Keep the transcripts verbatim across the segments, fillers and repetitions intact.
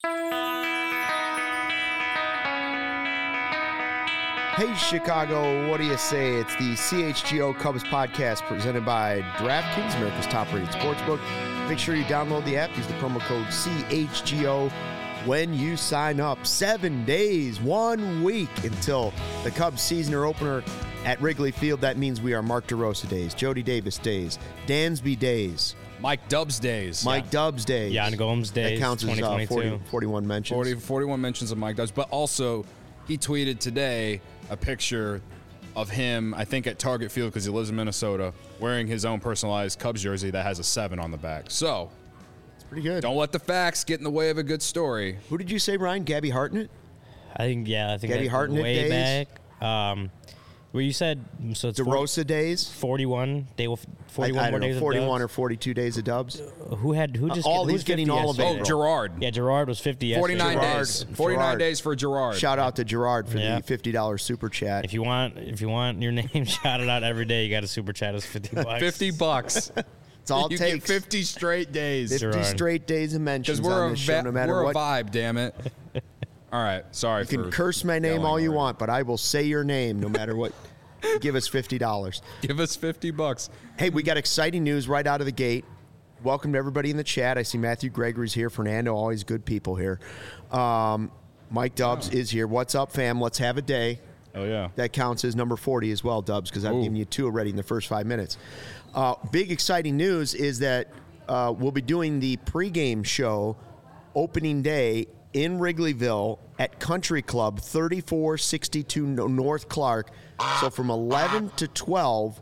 Hey, Chicago, what do you say? It's the C H G O Cubs podcast presented by DraftKings, America's top-rated sportsbook. Make sure you download the app. Use the promo code C H G O when you sign up. Seven days, one week until the Cubs season opener at Wrigley Field. That means we are Mark DeRosa days, Jody Davis days, Dansby days, Mike Dubs days. Mike yeah. Dubs days. Jan Gomes days. That counts as uh, forty, forty-one mentions. forty, forty-one mentions of Mike Dubs. But also, he tweeted today a picture of him, I think, at Target Field because he lives in Minnesota, wearing his own personalized Cubs jersey that has a seven on the back. So, it's pretty good. Don't let the facts get in the way of a good story. Who did you say, Ryan? Gabby Hartnett? I think, yeah, I think Gabby that Hartnett way days? back. Um, well, you said, so it's DeRosa days? forty-one, day, forty-one I, I more don't days know, forty-one of or forty-two days of Dubs. Who had, who just, Uh, all who these was getting fifty all of yesterday? it. Oh, Gerard. Yeah, Gerard was fifty yesterday. forty-nine Gerard. days. forty-nine Gerard. days for Gerard. Shout out to Gerard for Yeah. the fifty dollars super chat. If you want, if you want your name shouted out every day, you got to super chat us fifty bucks. fifty bucks. It's all it you takes. get fifty straight days. fifty Gerard. straight days of mentions Because we're, on a, this show, va- no matter we're what. a vibe, damn it. All right, sorry You can for curse my name yelling all you already. want, but I will say your name no matter what. Give us fifty dollars. Give us fifty bucks. Hey, we got exciting news right out of the gate. Welcome to everybody in the chat. I see Matthew Gregory's here. Fernando, always good people here. Um, Mike Dubs is here. What's up, fam? Let's have a day. Oh, yeah. That counts as number forty as well, Dubs, because I've Ooh. given you two already in the first five minutes. Uh, big exciting news is that uh, we'll be doing the pregame show opening day in Wrigleyville at Country Club, thirty-four sixty-two North Clark. So from eleven to twelve,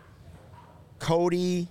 Cody,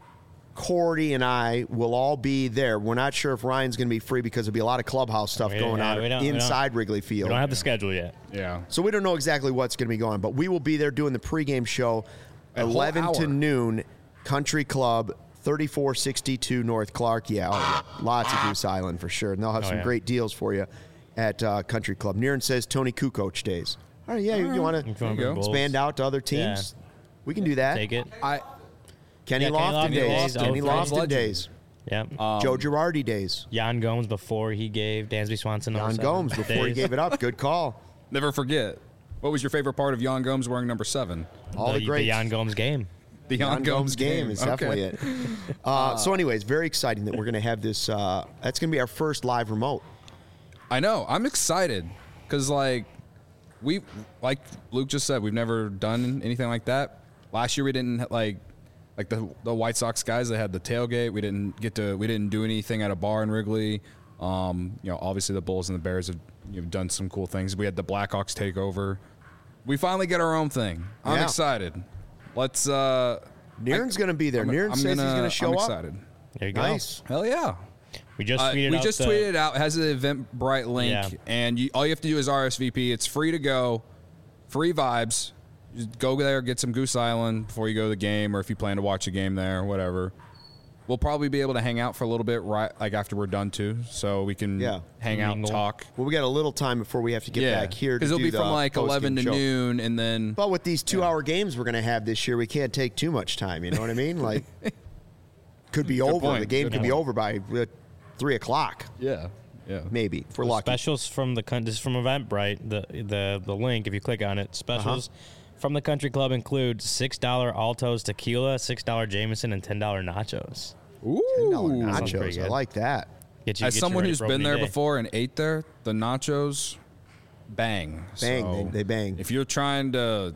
Cordy, and I will all be there. We're not sure if Ryan's going to be free because there'll be a lot of clubhouse stuff We- going yeah, on we don't- we don't- inside Wrigley We Field. don't have the schedule yet. Yeah. So we don't know exactly what's going to be going on, but we will be there doing the pregame show, A whole eleven to hour. noon, Country Club, thirty-four sixty-two North Clark. Yeah, oh, yeah. Lots of Goose Island for sure. And they'll have Oh, some yeah. great deals for you at uh, Country Club. Niren says Tony Kukoc days. All right, yeah, you, you want If you to wanna you go. bring Bulls, expand out to other teams? We can do that. take it. I Kenny Yeah, Kenny Lofton Lofton days. days, Kenny oh, Lofton legend. days. Yeah. Um, Joe Girardi days. Jan Gomes before he gave Dansby Swanson. Don number seven Gomes before he days. gave it up. Good call. never forget. What was your favorite part of Jan Gomes wearing number seven? All the, the, great the Jan Gomes game. The Jan Gomes game is Okay. definitely it. Uh, so, anyways, very exciting that we're going to have this. Uh, that's going to be our first live remote. I know. I'm excited because, like, we, like Luke just said, we've never done anything like that. Last year we didn't like, like the the White Sox guys. They had the tailgate. We didn't get to. We didn't do anything at a bar in Wrigley. Um, you know, obviously the Bulls and the Bears have you know, done some cool things. We had the Blackhawks take over. We finally get our own thing. I'm Yeah. excited. Let's. uh Niren's going to be there. I'm, Niren I'm says gonna, he's going to show I'm up. excited. There you go. Nice. Hell yeah. We just Uh, tweeted we out just the, tweeted it out. It has an Eventbrite link, Yeah. and you, all you have to do is R S V P. It's free to go, free vibes. Just go there, get some Goose Island before you go to the game, or if you plan to watch a game there, whatever. We'll probably be able to hang out for a little bit, right? Like after we're done too, so we can Yeah. hang out, and Mingle. talk. Well, we got a little time before we have to get yeah, back here. because to it'll do be from the like post-game eleven to show. noon, and then But with these two-hour games we're going to have this year, we can't take too much time. You know what I mean? Like, could be over. point. The game Good could be point. over by uh, three o'clock, yeah, yeah, maybe if we're lucky. specials from the con- this is from Eventbrite. The the the link, if you click on it, specials Uh-huh. from the Country Club include six dollar Altos tequila, six dollar Jameson, and ten dollar nachos. Ooh, ten dollar sounds pretty nachos. I good. like that. Get you, as get you someone ready who's for been opening there day. before and ate there, the nachos bang. Bang, So they- they bang. If you're trying to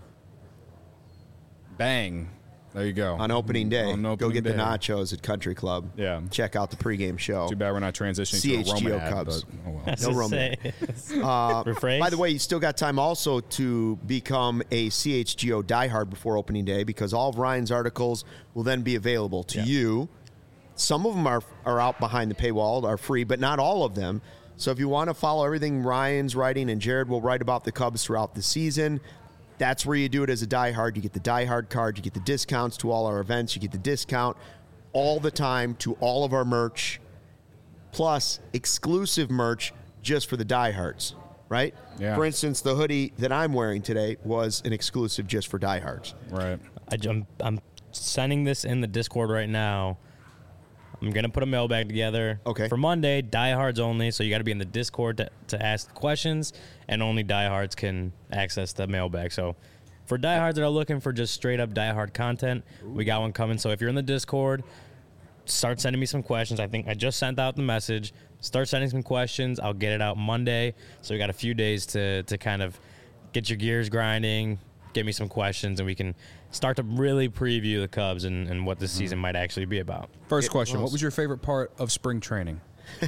bang, there you go. On opening day, On go opening get the day. nachos at Country Club. Yeah. Check out the pregame show. Too bad we're not transitioning C to H a G O Roman ad, Cubs. but oh well. I was No gonna Roman. say. Uh, Rephrase? By the way, you still got time also to become a C H G O diehard before opening day because all of Ryan's articles will then be available to Yeah. you. Some of them are are out behind the paywall, are free, but not all of them. So if you want to follow everything Ryan's writing and Jared will write about the Cubs throughout the season, that's where you do it as a diehard. You get the diehard card, you get the discounts to all our events, you get the discount all the time to all of our merch, plus exclusive merch just for the diehards, right? Yeah. For instance, the hoodie that I'm wearing today was an exclusive just for diehards. Right. I, am I'm sending this in the Discord right now. I'm going to put a mailbag together Okay. for Monday, diehards only. So you got to be in the Discord to, to ask questions, and only diehards can access the mailbag. So for diehards that are looking for just straight up diehard content, we got one coming. So if you're in the Discord, start sending me some questions. I think I just sent out the message. Start sending some questions. I'll get it out Monday. So we got a few days to to kind of get your gears grinding, get me some questions, and we can start to really preview the Cubs and, and what this season might actually be about. First question: what was your favorite part of spring training?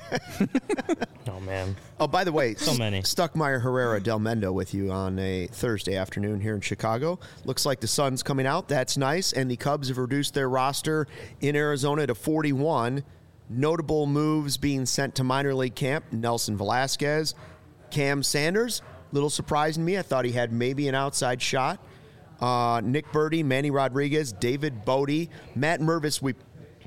Oh, man. Oh, by the way, So many. Stuckmeyer Herrera Del Mendo with you on a Thursday afternoon here in Chicago. Looks like the sun's coming out. That's nice. And the Cubs have reduced their roster in Arizona to forty-one. Notable moves being sent to minor league camp: Nelson Velasquez, Cam Sanders. Little surprising to me. I thought he had maybe an outside shot. Uh, Nick Birdie, Manny Rodriguez, David Bodie, Matt Mervis. We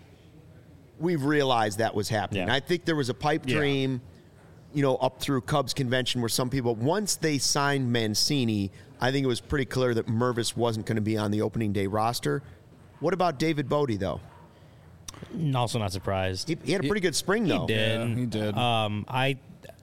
we've realized that was happening. Yeah. I think there was a pipe Yeah. dream, you know, up through Cubs convention where some people, once they signed Mancini, I think it was pretty clear that Mervis wasn't going to be on the opening day roster. What about David Bodie, though? Also not surprised. He, he had a pretty good spring, though. He did. Yeah, he did. Um, I.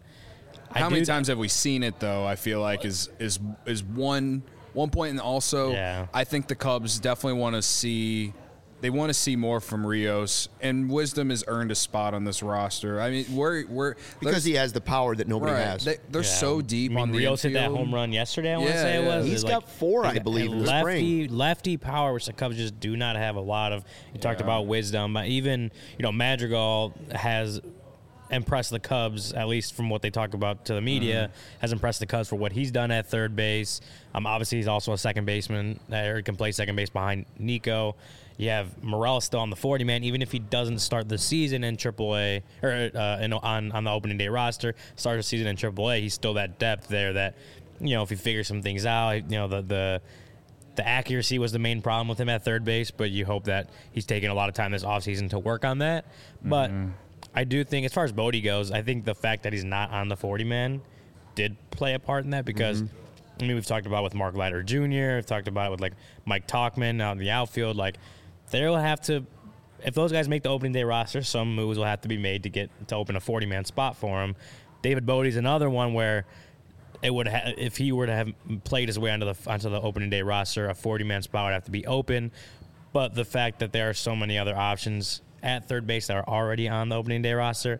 I How many do- times have we seen it though? I feel like is is is one one point, and also Yeah. I think the Cubs definitely want to see they want to see more from Rios, and Wisdom has earned a spot on this roster. I mean, we're we're Because he has the power that nobody right, has. They, they're Yeah. so deep I mean, on the Rios hit that infield. home run yesterday. I want to Yeah, say it yeah. was. He's It's got four, I he's got believe, in the lefty, spring. Lefty power, which the Cubs just do not have a lot of. You talked Yeah. about Wisdom, but even you know Madrigal has impressed the Cubs, at least from what they talk about to the media, Mm-hmm. has impressed the Cubs for what he's done at third base. Um, obviously he's also a second baseman, or he can play second base behind Nico. You have Morel still on the forty man, even if he doesn't start the season in triple A or uh, in, on on the opening day roster, start the season in triple A. He's still that depth there. That you know, if he figures some things out, you know, the the the accuracy was the main problem with him at third base. But you hope that he's taking a lot of time this offseason to work on that. But I do think, as far as Bodie goes, I think the fact that he's not on the forty man did play a part in that because. I mean, we've talked about it with Mark Leiter Junior We've talked about it with like Mike Talkman out in the outfield. Like, they'll have to, if those guys make the opening day roster, some moves will have to be made to get to open a forty man spot for him. David Bodie's another one where it would ha- if he were to have played his way onto the onto the opening day roster, a forty man spot would have to be open. But the fact that there are so many other options at third base that are already on the opening day roster,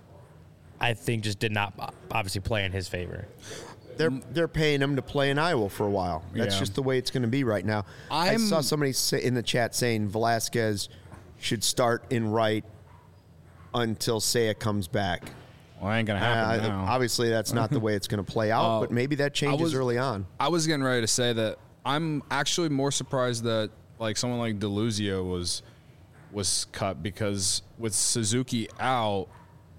I think just did not obviously play in his favor. They're they're paying him to play in Iowa for a while. That's Yeah. just the way it's going to be right now. I I'm- saw somebody say in the chat saying Velasquez should start in right until Seiya comes back. Well, ain't gonna happen Uh, now. obviously, that's not the way it's going to play out, Uh, but maybe that changes was- early on. I was getting ready to say that I'm actually more surprised that like someone like DeLuzio was was cut, because with Suzuki out,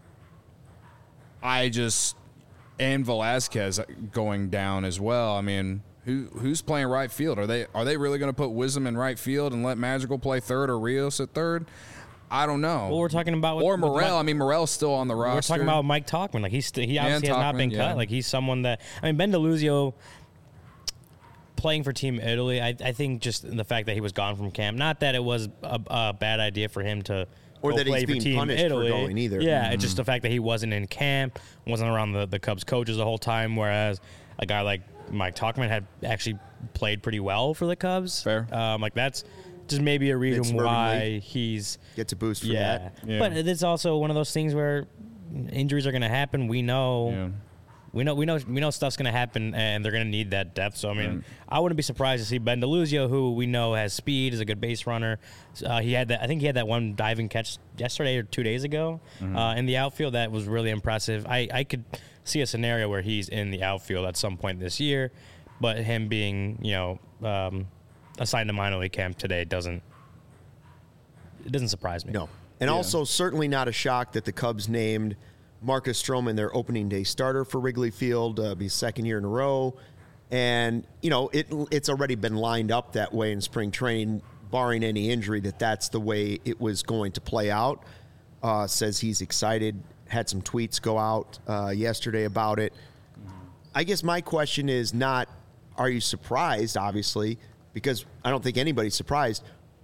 I just and Velasquez going down as well. I mean, who who's playing right field? Are they are they really going to put Wisdom in right field and let Madrigal play third or Rios at third? I don't know. Well, we're talking about with, or with Morel. Mike- I mean, Morel's still on the roster. We're talking about Mike Talkman. Like he's st- he obviously has not Talkman, been yeah. cut. Like he's someone that I mean Ben DeLuzio playing for Team Italy. I, I think just the fact that he was gone from camp. Not that it was a, a bad idea for him to Or go that he's play for being Team punished for Italy. going either. Yeah, it's just the fact that he wasn't in camp, wasn't around the, the Cubs coaches the whole time. Whereas a guy like Mike Talkman had actually played pretty well for the Cubs. Fair. Um, like that's just maybe a reason Mid-suburban why league. he's. Gets a boost for Yeah. that. Yeah. But it's also one of those things where injuries are going to happen. We know, Yeah. we know, we know, we know stuff's going to happen, and they're going to need that depth. So I mean, I wouldn't be surprised to see Ben DeLuzio, who we know has speed, is a good base runner. Uh, he had that. I think he had that one diving catch yesterday or two days ago uh, in the outfield that was really impressive. I, I could see a scenario where he's in the outfield at some point this year, but him being, you know, um, assigned to minor league camp today doesn't. It doesn't surprise me. No. And also, certainly not a shock that the Cubs named Marcus Stroman their opening day starter for Wrigley Field, uh, be second year in a row. And, you know, it it's already been lined up that way in spring training, barring any injury, that that's the way it was going to play out. Uh, says he's excited, had some tweets go out uh, yesterday about it. I guess my question is not, are you surprised, obviously, because I don't think anybody's surprised.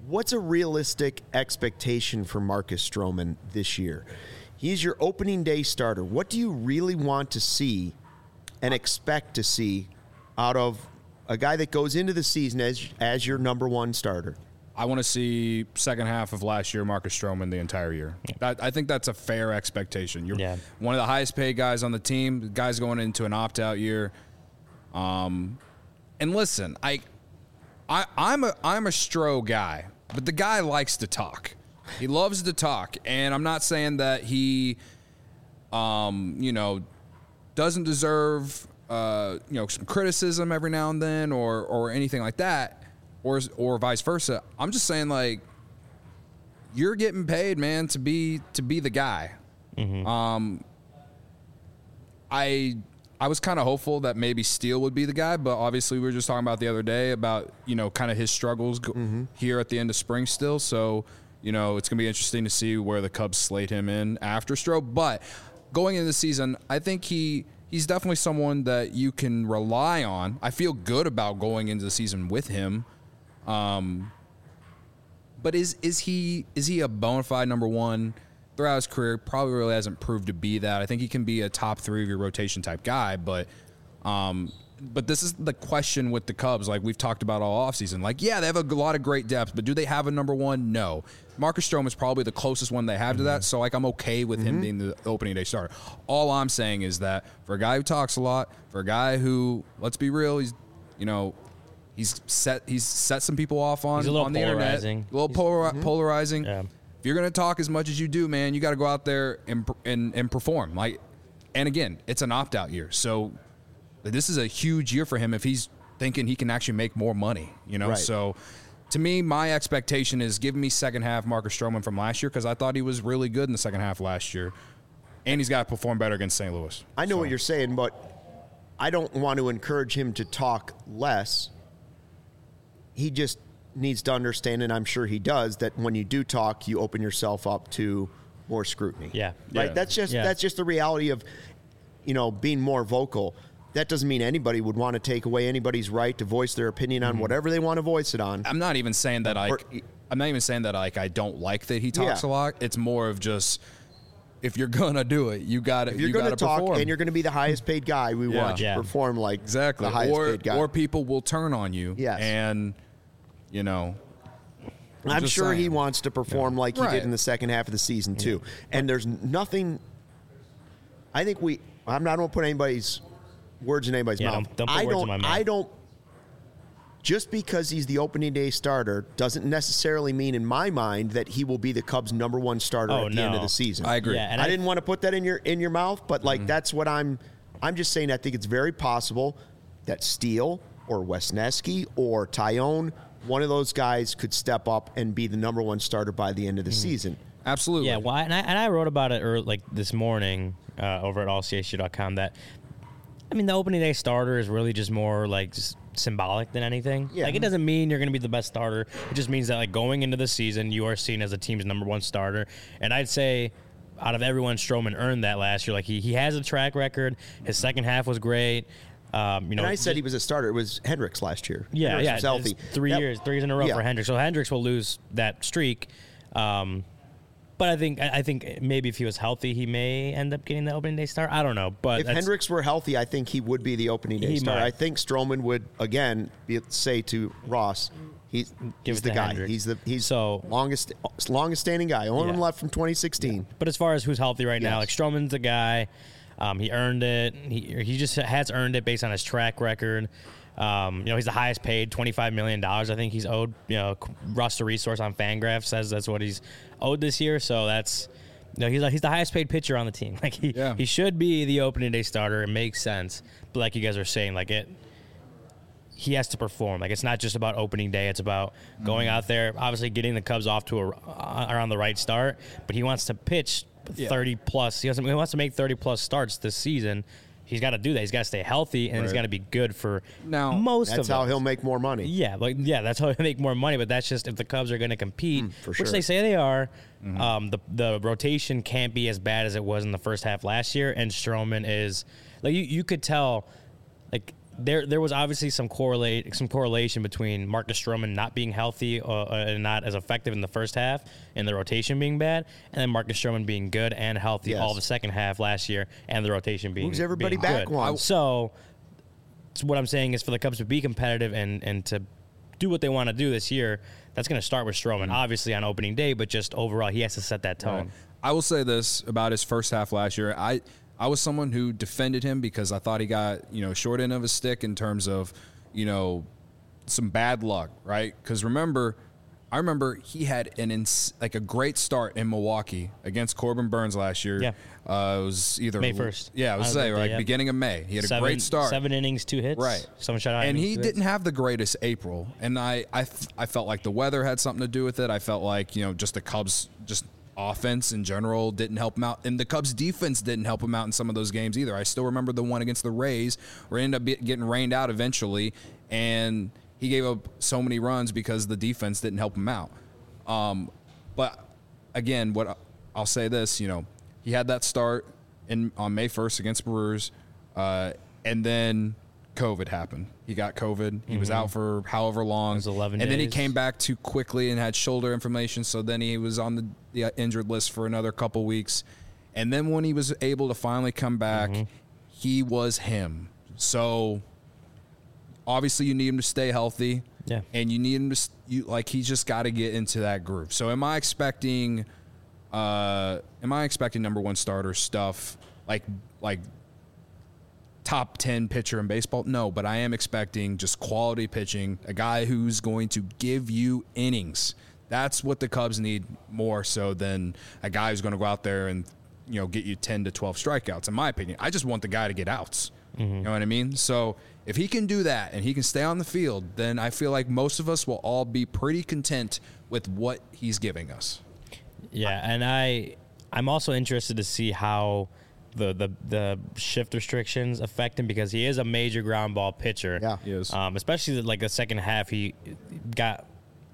what's a realistic expectation for Marcus Stroman this year? He's your opening day starter. What do you really want to see and expect to see out of a guy that goes into the season as as your number one starter? I want to see second half of last year Marcus Stroman the entire year. That, I think that's a fair expectation. You're yeah. one of the highest paid guys on the team. The guy's going into an opt-out year. Um, and listen, I, I, I'm a I'm a Stro guy, but the guy likes to talk. He loves to talk, and I'm not saying that he, um, you know, doesn't deserve, uh, you know, some criticism every now and then, or or anything like that, or or vice versa. I'm just saying, like, you're getting paid, man, to be to be the guy. Mm-hmm. Um, I I was kind of hopeful that maybe Steele would be the guy, but obviously we were just talking about the other day about, you know, kind of his struggles go- mm-hmm. here at the end of spring still. So, you know, it's going to be interesting to see where the Cubs slate him in after Stroh. But going into the season, I think he he's definitely someone that you can rely on. I feel good about going into the season with him. Um, but is is he is he a bona fide number one throughout his career? Probably really hasn't proved to be that. I think he can be a top three of your rotation type guy, but um, but this is the question with the Cubs, like we've talked about all offseason. Like, yeah, they have a lot of great depth, but do they have a number one? No. Marcus Stroman is probably the closest one they have mm-hmm. to that, so like I'm okay with mm-hmm. him being the opening day starter. All I'm saying is that for a guy who talks a lot, for a guy who, let's be real, he's, you know, he's set he's set some people off on, on the polarizing. internet. A little polar, mm-hmm. polarizing. Yeah. If you're going to talk as much as you do, man, you got to go out there and, and and perform. Like, and again, it's an opt-out year, so this is a huge year for him if he's thinking he can actually make more money. You know, right. So to me, my expectation is give me second half Marcus Stroman from last year because I thought he was really good in the second half last year, and he's got to perform better against Saint Louis. I know so. what you're saying, but I don't want to encourage him to talk less. He just needs to understand, and I'm sure he does, that when you do talk, you open yourself up to more scrutiny. Yeah. Right? Yeah. That's just yeah. that's just the reality of, you know, being more vocal. That doesn't mean anybody would want to take away anybody's right to voice their opinion on mm-hmm. whatever they want to voice it on. I'm not even saying that I Or, I'm not even saying that like I don't like that he talks Yeah. a lot. It's more of just if you're gonna do it, you got to if you're you going to gotta talk perform. and you're going to be the highest paid guy, we Yeah. want you Yeah. to perform like exactly, the highest or paid guy. or people will turn on you. Yes. And you know, I'm, I'm just sure saying. he wants to perform Yeah. like he Right. did in the second half of the season too. And there's nothing. I think we. I'm not going to put anybody's words in anybody's Yeah, mouth. don't- don't put I words in don't. my mouth. I don't. Just because he's the opening day starter doesn't necessarily mean, in my mind, that he will be the Cubs' number one starter Oh, at the no. end of the season. I agree. Yeah, and I, I- didn't want to put that in your in your mouth, but like that's what I'm. I'm just saying. I think it's very possible that Steele or Wesneski or Tyone, one of those guys, could step up and be the number one starter by the end of the season. Absolutely. Yeah, well, and I, and I wrote about it early, like this morning uh, over at all c h u dot com that, I mean, the opening day starter is really just more like just symbolic than anything. Yeah. Like, it doesn't mean you're going to be the best starter. It just means that, like, going into the season, you are seen as the team's number one starter. And I'd say out of everyone, Stroman earned that last year. Like, he, he has a track record. His second half was great. Um, you know, And I said just- he was a starter. It was Hendricks last year. Yeah, Hendricks yeah. was healthy. It's Three That- years, three years in a row Yeah. for Hendricks. So Hendricks will lose that streak. Um, but I think I think maybe if he was healthy, he may end up getting the opening day start. I don't know, but If that's- Hendricks were healthy, I think he would be the opening day He starter. might. I think Stroman would again be, say to Ross, he's, Give he's it the to guy. Hendricks. He's the he's So- longest longest standing guy. Only one Yeah. left from twenty sixteen. But as far as who's healthy right now, like Yes. Stroman's the guy. Um, he earned it. He he just has earned it based on his track record. Um, you know, he's the highest paid, twenty-five million dollars. I think he's owed. You know, Russ the Resource on Fangraphs says that's what he's owed this year. So that's, you know, he's he's the highest paid pitcher on the team. Like he Yeah. he should be the opening day starter. It makes sense. But like you guys are saying, like it. He has to perform. Like, it's not just about opening day. It's about going out there, obviously getting the Cubs off to a, uh, around the right start. But he wants to pitch Yeah. thirty plus. He, doesn't, he wants to make thirty plus starts this season. He's got to do that. He's got to stay healthy, and he's Right. got to be good for Now, most That's of how us. he'll make more money. Yeah, like yeah, that's how they make more money. But that's just if the Cubs are going to compete, Mm, for which sure. they say they are. Um, the the rotation can't be as bad as it was in the first half last year. And Stroman is like you, you could tell, like there there was obviously some correlate some correlation between Marcus Stroman not being healthy uh, and not as effective in the first half and the rotation being bad, and then Marcus Stroman being good and healthy Yes. all the second half last year and the rotation being Moves everybody being back good. one. So, so what I'm saying is for the Cubs to be competitive and and to do what they want to do this year, that's going to start with Stroman, obviously on opening day, but just overall he has to set that tone. Right. I will say this about his first half last year. I I was someone who defended him because I thought he got, you know, short end of his stick in terms of, you know, some bad luck, right? Because remember, I remember he had an ins- like a great start in Milwaukee against Corbin Burns last year. Yeah. Uh, it was either May first. Yeah, I was On say that day, like yeah. beginning of May. He had a Seven, great start. Seven innings, two hits. Right. Someone shut out. And he didn't have the greatest April. And I, I, f- I felt like the weather had something to do with it. I felt like, you know, just the Cubs, just offense in general didn't help him out. And the Cubs defense didn't help him out in some of those games either. I still remember the one against the Rays where he ended up be- getting rained out eventually. And he gave up so many runs because the defense didn't help him out. Um, but again, what I'll say this, you know, he had that start in on May first against Brewers, uh, and then COVID happened. He got COVID. He mm-hmm. was out for however long. It was eleven and days. then he came back too quickly and had shoulder inflammation. So then he was on the, the injured list for another couple weeks. And then when he was able to finally come back, mm-hmm. he was him. So obviously you need him to stay healthy. Yeah. And you need him to, you like, he's just got to get into that groove. So am I expecting, uh, am I expecting number one starter stuff like, like top ten pitcher in baseball? No, but I am expecting just quality pitching, a guy who's going to give you innings. That's what the Cubs need more so than a guy who's going to go out there and, you know, get you ten to twelve strikeouts, in my opinion. I just want the guy to get outs. Mm-hmm. You know what I mean? So if he can do that and he can stay on the field, then I feel like most of us will all be pretty content with what he's giving us. Yeah, and I, I'm also interested to see how the, the, the shift restrictions affect him because he is a major ground ball pitcher. Yeah, he is. Um, especially like the second half, he got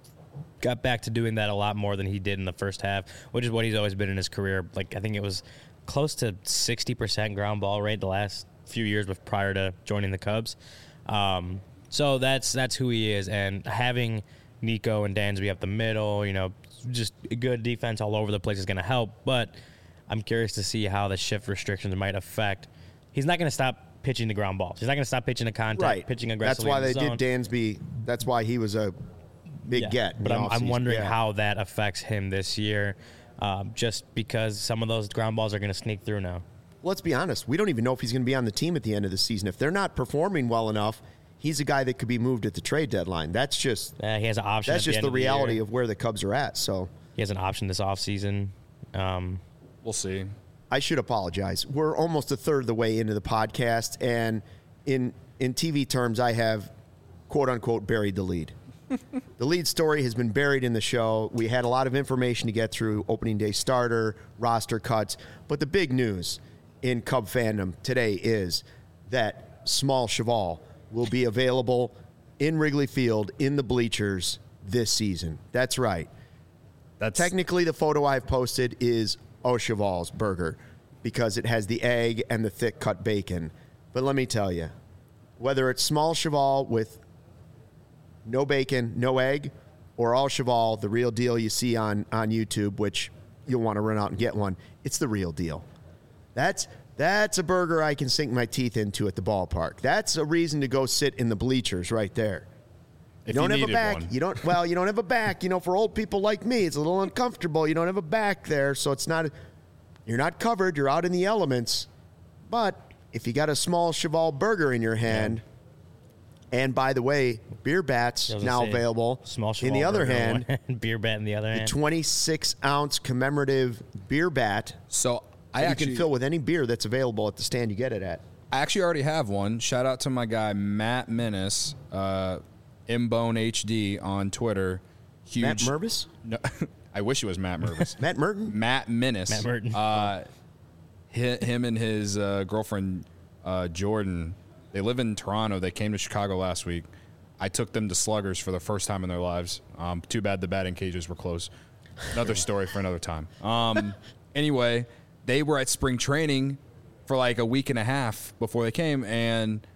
got back to doing that a lot more than he did in the first half, which is what he's always been in his career. Like I think it was close to sixty percent ground ball rate the last few years with prior to joining the Cubs. Um, so that's that's who he is, and having Nico and Dansby up the middle, you know, just a good defense all over the place is going to help. But I'm curious to see how the shift restrictions might affect. He's not going to stop pitching the ground balls. He's not going to stop pitching the contact, right. pitching aggressively. That's why in the they zone. did Dansby. That's why he was a big Yeah, get. But I'm, I'm wondering yeah. how that affects him this year, um, just because some of those ground balls are going to sneak through now. Let's be honest. We don't even know if he's going to be on the team at the end of the season. If they're not performing well enough, he's a guy that could be moved at the trade deadline. That's just Uh, he has an option. that's at the just end the of reality year. of where the Cubs are at. So He has an option this offseason. Um, We'll see. I should apologize. We're almost a third of the way into the podcast, and in in T V terms, I have quote unquote buried the lead. The lead story has been buried in the show. We had a lot of information to get through: opening day starter, roster cuts. But the big news in Cub fandom today is that Small Cheval will be available in Wrigley Field in the bleachers this season. That's right. That's Technically, the photo I've posted is Au Cheval's burger because it has the egg and the thick cut bacon. But let me tell you, whether it's Small Cheval with no bacon, no egg, or Au Cheval, the real deal you see on, on YouTube, which you'll want to run out and get one, it's the real deal. That's that's a burger I can sink my teeth into at the ballpark. That's a reason to go sit in the bleachers right there. You If don't you have a needed back. one. You don't. Well, you don't have a back. You know, for old people like me, it's a little uncomfortable. You don't have a back there, so it's not. You're not covered. You're out in the elements. But if you got a Small Cheval burger in your hand, and by the way, beer bats I was gonna now say, available. Small in the Cheval other burger in hand, one hand, beer bat in the other the hand. twenty-six ounce commemorative beer bat. so I you actually can fill with any beer that's available at the stand you get it at. I actually already have one. Shout out to my guy Matt Menace, uh, Mbone H D on Twitter. Huge. Matt Mervis? No, I wish it was Matt Mervis. Matt Merton? Matt Menace. Matt Merton. Uh, hi- him and his uh, girlfriend uh, Jordan. They live in Toronto. They came to Chicago last week. I took them to Sluggers for the first time in their lives. Um, too bad the batting cages were closed. Another story for another time. Um, anyway, they were at spring training for like a week and a half before they came, and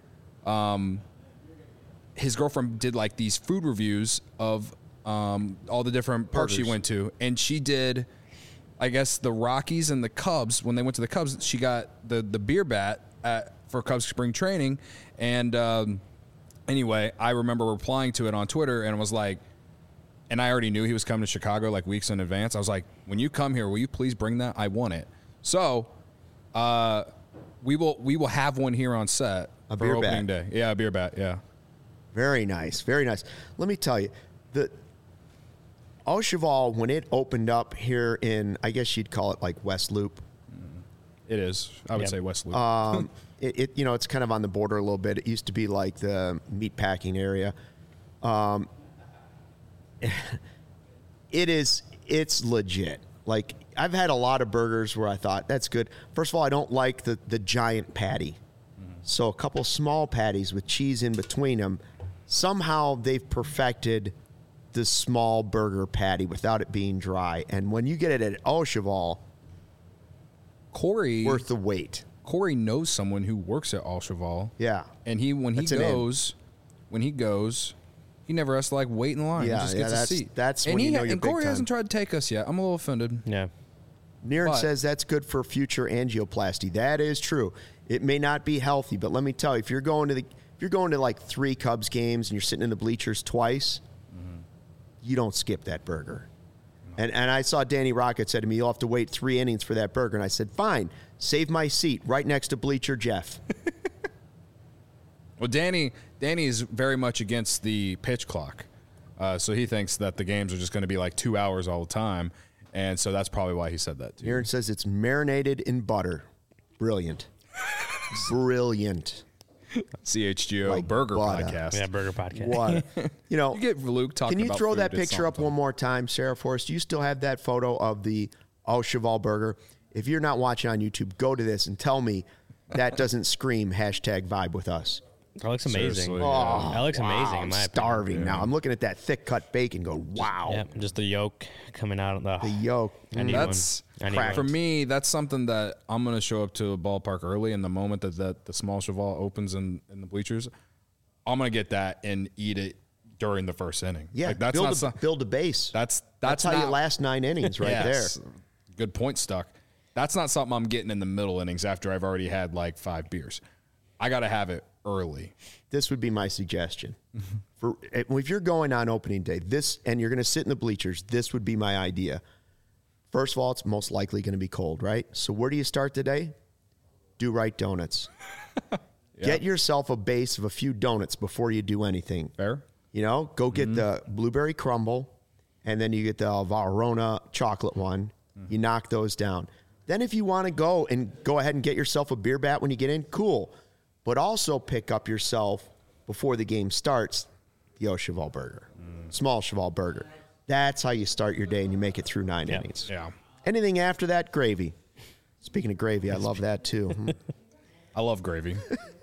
um, his girlfriend did like these food reviews of um, all the different parks she Burgers. went to, and she did, I guess, the Rockies and the Cubs. When they went to the Cubs, she got the the beer bat at, for Cubs spring training, and um, anyway, I remember replying to it on Twitter and was like, and I already knew he was coming to Chicago like weeks in advance. I was like, when you come here, will you please bring that? I want it. So, uh, we will we will have one here on set A for beer opening bat. day. Yeah, a beer bat. Yeah. Very nice, very nice. Let me tell you, the Au Cheval, when it opened up here in, I guess you'd call it like West Loop. It is. I would Yep. say West Loop. Um, it, it, you know, it's kind of on the border a little bit. It used to be like the meat packing area. Um, it is, it's legit. Like, I've had a lot of burgers where I thought, that's good. First of all, I don't like the, the giant patty. So a couple small patties with cheese in between them. Somehow they've perfected the small burger patty without it being dry. And when you get it at Au Cheval, Corey worth the wait. Corey knows someone who works at Au Cheval. Yeah. And he when he That's an in. goes when he goes, he never has to like wait in line. Yeah, he just yeah, gets that's- a seat. that's and when he you know ha- you're and big Corey time. hasn't tried to take us yet. I'm a little offended. Yeah. Niren But- says that's good for future angioplasty. That is true. It may not be healthy, but let me tell you, if you're going to the if you're going to like three Cubs games and you're sitting in the bleachers twice, Mm-hmm. you don't skip that burger. And and I saw Danny Rocket said to me, you'll have to wait three innings for that burger. And I said, fine, save my seat right next to bleacher Jeff. Well, Danny Danny is very much against the pitch clock. Uh, so he thinks that the games are just going to be like two hours all the time. And so that's probably why he said that too. Niren says it's marinated in butter. Brilliant. Brilliant. C H G O Like Burger butter. Podcast. Yeah, burger podcast. What? You know, You get Luke talking can you about throw food, that it's picture up something. one more time, Sarah Forrest? Do you still have that photo of the Au Cheval burger? If you're not watching on YouTube, go to this and tell me that doesn't scream hashtag vibe with us. That looks amazing. Seriously, Oh, That looks wow, amazing in I'm my opinion. starving now. I'm looking at that thick cut bacon. Go wow. Yeah, just the yolk coming out of the. The yolk. I need That's one. I need for one. me. That's something that I'm going to show up to a ballpark early. In the moment that, that the small cheval opens in, in the bleachers, I'm going to get that and eat it during the first inning. Yeah, like, that's build, not a, some, build a base. that's That's, that's, how not, you last nine innings right Yes. there. Good point, Stuck. That's not something I'm getting in the middle innings after I've already had like five beers. I got to have it early. This would be my suggestion. For if you're going on opening day, this and you're going to sit in the bleachers, this would be my idea. First of all, it's most likely going to be cold, right? So where do you start the day? Do right donuts. Get yourself a base of a few donuts before you do anything. Fair? You know, go get Mm-hmm. the blueberry crumble, and then you get the Varona chocolate one. Mm-hmm. You knock those down. Then if you want to go and go ahead and get yourself a beer bat when you get in, cool. But also pick up yourself, before the game starts, the Au Cheval burger. Mm. Small Cheval burger. That's how you start your day and you make it through nine Yeah. innings. Yeah. Anything after that, gravy. Speaking of gravy, I love that too. Hmm. I love gravy.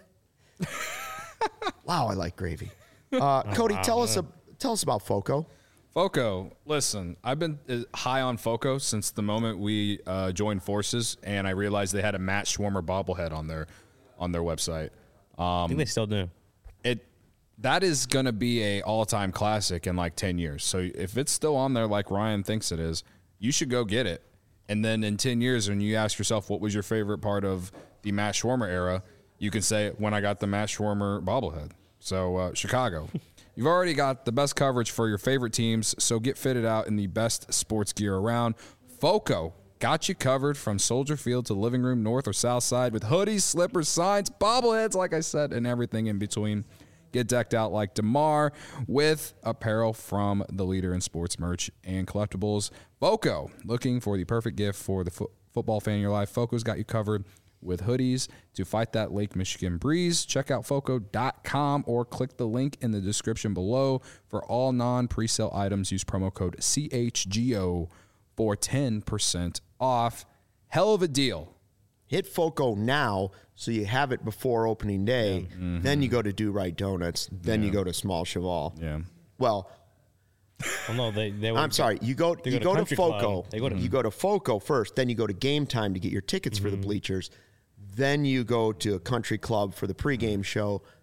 Wow, I like gravy. Uh, Cody, tell us a, tell us about Foco. Foco, listen, I've been uh, high on Foco since the moment we uh, joined forces, and I realized they had a Matt Schwarmer bobblehead on their on their website. I think they still do. It that is going to be a all time classic in like ten years. So if it's still on there, like Ryan thinks it is, you should go get it. And then in ten years, when you ask yourself what was your favorite part of the Matt Schwarmer era, you can say when I got the Matt Schwarmer bobblehead. So uh, Chicago. You've already got the best coverage for your favorite teams, so get fitted out in the best sports gear around. Foco got you covered from Soldier Field to Living Room North or South Side with hoodies, slippers, signs, bobbleheads, like I said, and everything in between. Get decked out like DeMar with apparel from the leader in sports merch and collectibles. Foco, looking for the perfect gift for the fo- football fan in your life. Foco's got you covered with hoodies to fight that Lake Michigan breeze. Check out foco dot com or click the link in the description below. For all non-presale items, use promo code C H G O for ten percent off. Hell of a deal. Hit Foco now so you have it before opening day. Then you go to Do Right Donuts. Then you go to Small Cheval. Yeah. Well, Well, no, they. they I'm would- sorry. You go they you go to go to Country Foco. Club. They go to- You go to Foco first. Then you go to Game Time to get your tickets for the bleachers. Then you go to a country club for the pregame show.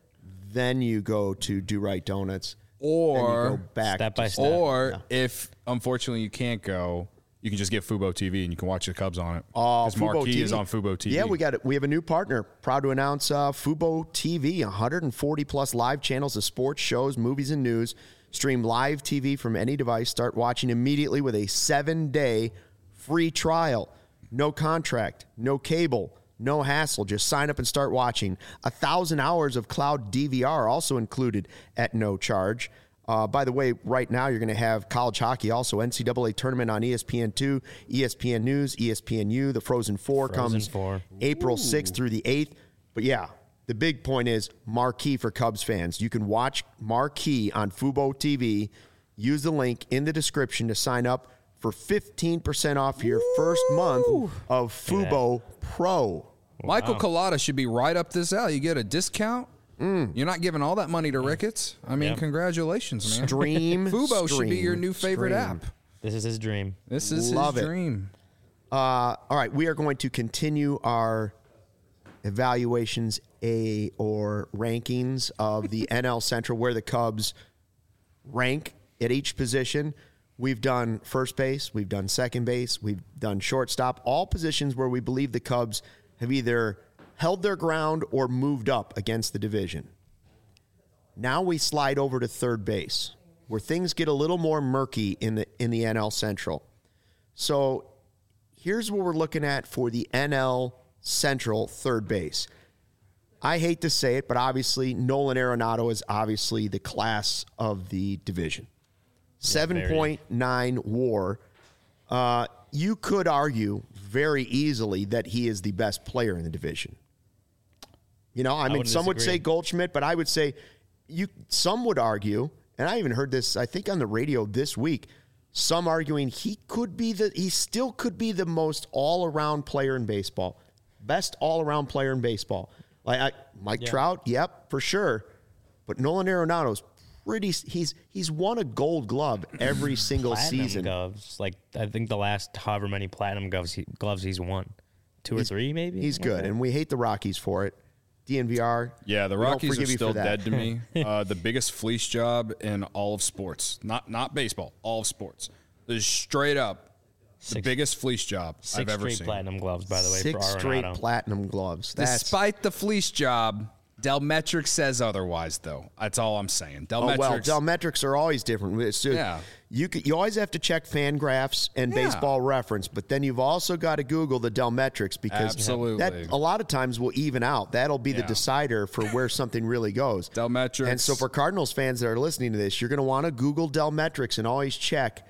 then you go to Do Right Donuts, Or then you go back step to by step. Or Yeah. if unfortunately you can't go, you can just get Fubo T V and you can watch the Cubs on it. Oh, Because Fubo Marquee T V is on Fubo T V. Yeah, we got it. We have a new partner. Proud to announce uh, Fubo T V, one hundred forty plus live channels of sports, shows, movies, and news. Stream live T V from any device. Start watching immediately with a seven-day free trial. No contract, no cable, no hassle. Just sign up and start watching. A thousand hours of cloud D V R also included at no charge. Uh, by the way, right now you're going to have college hockey, also N C double A tournament on E S P N two, E S P N News, E S P N U. The Frozen Four Frozen comes Four. April sixth through the eighth. But yeah, the big point is Marquee for Cubs fans. You can watch Marquee on Fubo T V. Use the link in the description to sign up for fifteen percent off your first month of Fubo Pro. Michael Collada should be right up this alley. You get a discount. Mm. You're not giving all that money to Ricketts. I mean, Yep. congratulations, man. Stream. Fubo should be stream, your new favorite stream. app. This is his dream. This is Love his it. dream. Uh, all right, we are going to continue our evaluations a or rankings of the N L Central, where the Cubs rank at each position. We've done first base, we've done second base, we've done shortstop, all positions where we believe the Cubs have either held their ground or moved up against the division. Now we slide over to third base, where things get a little more murky in the in the N L Central. So here's what we're looking at for the N L Central third base. I hate to say it, but obviously Nolan Arenado is obviously the class of the division. seven point nine WAR. Uh, you could argue very easily that he is the best player in the division. You know, I, mean, wouldn't some would disagree. say Goldschmidt, but I would say you. Some would argue, and I even heard this, I think, on the radio this week. Some arguing he could be the, he still could be the most all-around player in baseball, best all-around player in baseball. Like I, Mike Yeah. Trout, yep, for sure. But Nolan Arenado's pretty. He's he's won a Gold Glove every single Platinum season. gloves. Like I think the last however many platinum gloves he, gloves he's won, two or three maybe. He's good, and we hate the Rockies for it. D N V R. Yeah, the we don't Rockies are forgive you still for that. dead to me. Uh, the biggest fleece job in all of sports. Not not baseball, all of sports. This is straight up the Six- biggest fleece job Six I've ever straight seen. platinum gloves, by the way, Six for straight Arenado. platinum gloves. That's Despite the fleece job, Delmetric says otherwise, though. That's all I'm saying. oh Delmetric. well. Delmetrics are always different. It's just- Yeah. You could, you always have to check Fangraphs and Yeah. Baseball Reference, but then you've also got to Google the Delmetrics because Absolutely. that a lot of times will even out. That'll be the Yeah. decider for where something really goes. Delmetrics. And so for Cardinals fans that are listening to this, you're going to want to Google Delmetrics and always check.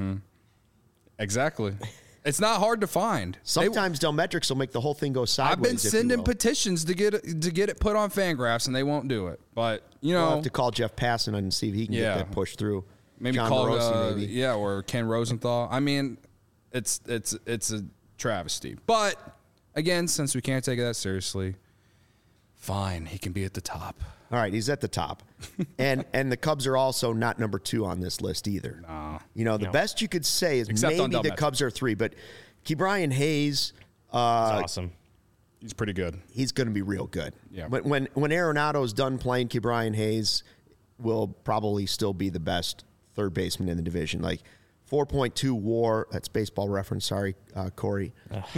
Exactly. It's not hard to find. They- Sometimes Delmetrics will make the whole thing go sideways. I've been if you sending will. petitions to get it, to get it put on Fangraphs, and they won't do it. But you know, We'll have to call Jeff Passan and see if he can Yeah. get that pushed through. maybe John call Morosi, uh, maybe. yeah, or Ken Rosenthal. I mean, it's it's it's a travesty. But again, since we can't take it that seriously, fine, he can be at the top. All right, he's at the top, and and the Cubs are also not number two on this list either. Nah. You know, the No. best you could say is Except on maybe the Delmetrics. Cubs are three, but Ke'Bryan Hayes, uh, It's awesome. He's pretty good. he's going to be real good. Yeah. When when when Arenado's done playing, Ke'Bryan Hayes will probably still be the best third baseman in the division. Like four point two WAR. That's Baseball Reference. Sorry, uh, Corey.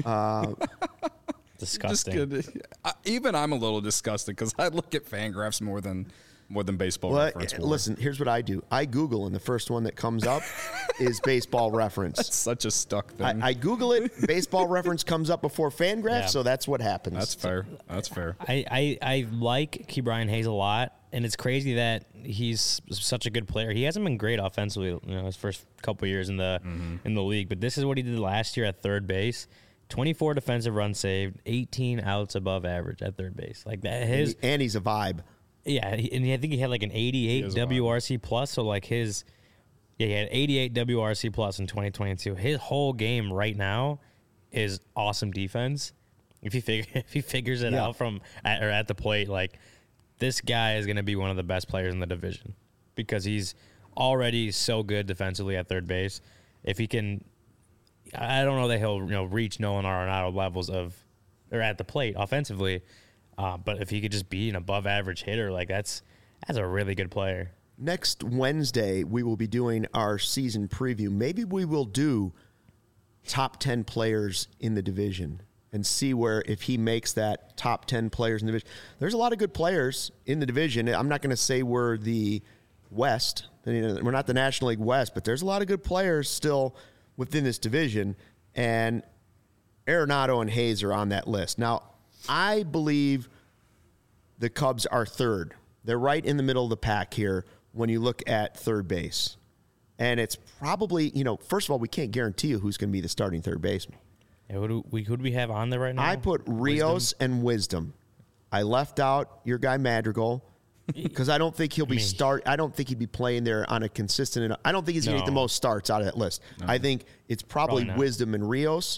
Just Disgusting. good. I, even I'm a little disgusted because I look at Fangraphs more than more than Baseball Well, Reference. more. listen, here's what I do. I Google, and the first one that comes up is Baseball Reference. It's such a stuck thing. I, I Google it. Baseball Reference comes up before Fangraphs, Yeah. so that's what happens. That's fair. That's fair. I, I, I like Ke'Bryan Hayes a lot, and it's crazy that he's such a good player. He hasn't been great offensively, you know, his first couple years in the in the league, but this is what he did last year at third base. twenty-four defensive runs saved, eighteen outs above average at third base. Like that, his and he's a vibe. yeah, he- and I think he had like an eighty-eight is W R C plus. So like his, yeah, he had eighty-eight W R C plus in twenty twenty-two. His whole game right now is awesome defense. If he figure if he figures it Yeah. out from at, or at the plate, like this guy is going to be one of the best players in the division because he's already so good defensively at third base. If he can, I don't know that he'll you know reach Nolan Arenado levels of or at the plate offensively. Uh, but if he could just be an above average hitter, like that's That's a really good player. Next Wednesday, we will be doing our season preview. Maybe we will do top ten players in the division and see where if he makes that top ten players in the division. There's a lot of good players in the division. I'm not going to say we're the West. We're not the National League West, but there's a lot of good players still within this division. And Arenado and Hayes are on that list. Now, I believe the Cubs are third. They're right in the middle of the pack here when you look at third base. And it's probably, you know, first of all, we can't guarantee you who's going to be the starting third baseman. Yeah, who, do we, who do we have on there right now? I put Rios Wisdom. and Wisdom. I left out your guy Madrigal because I don't think he'll be start. I don't think he'd be playing there on a consistent enough. I don't think he's going to No. get the most starts out of that list. No. I think it's probably, Probably not. Wisdom and Rios,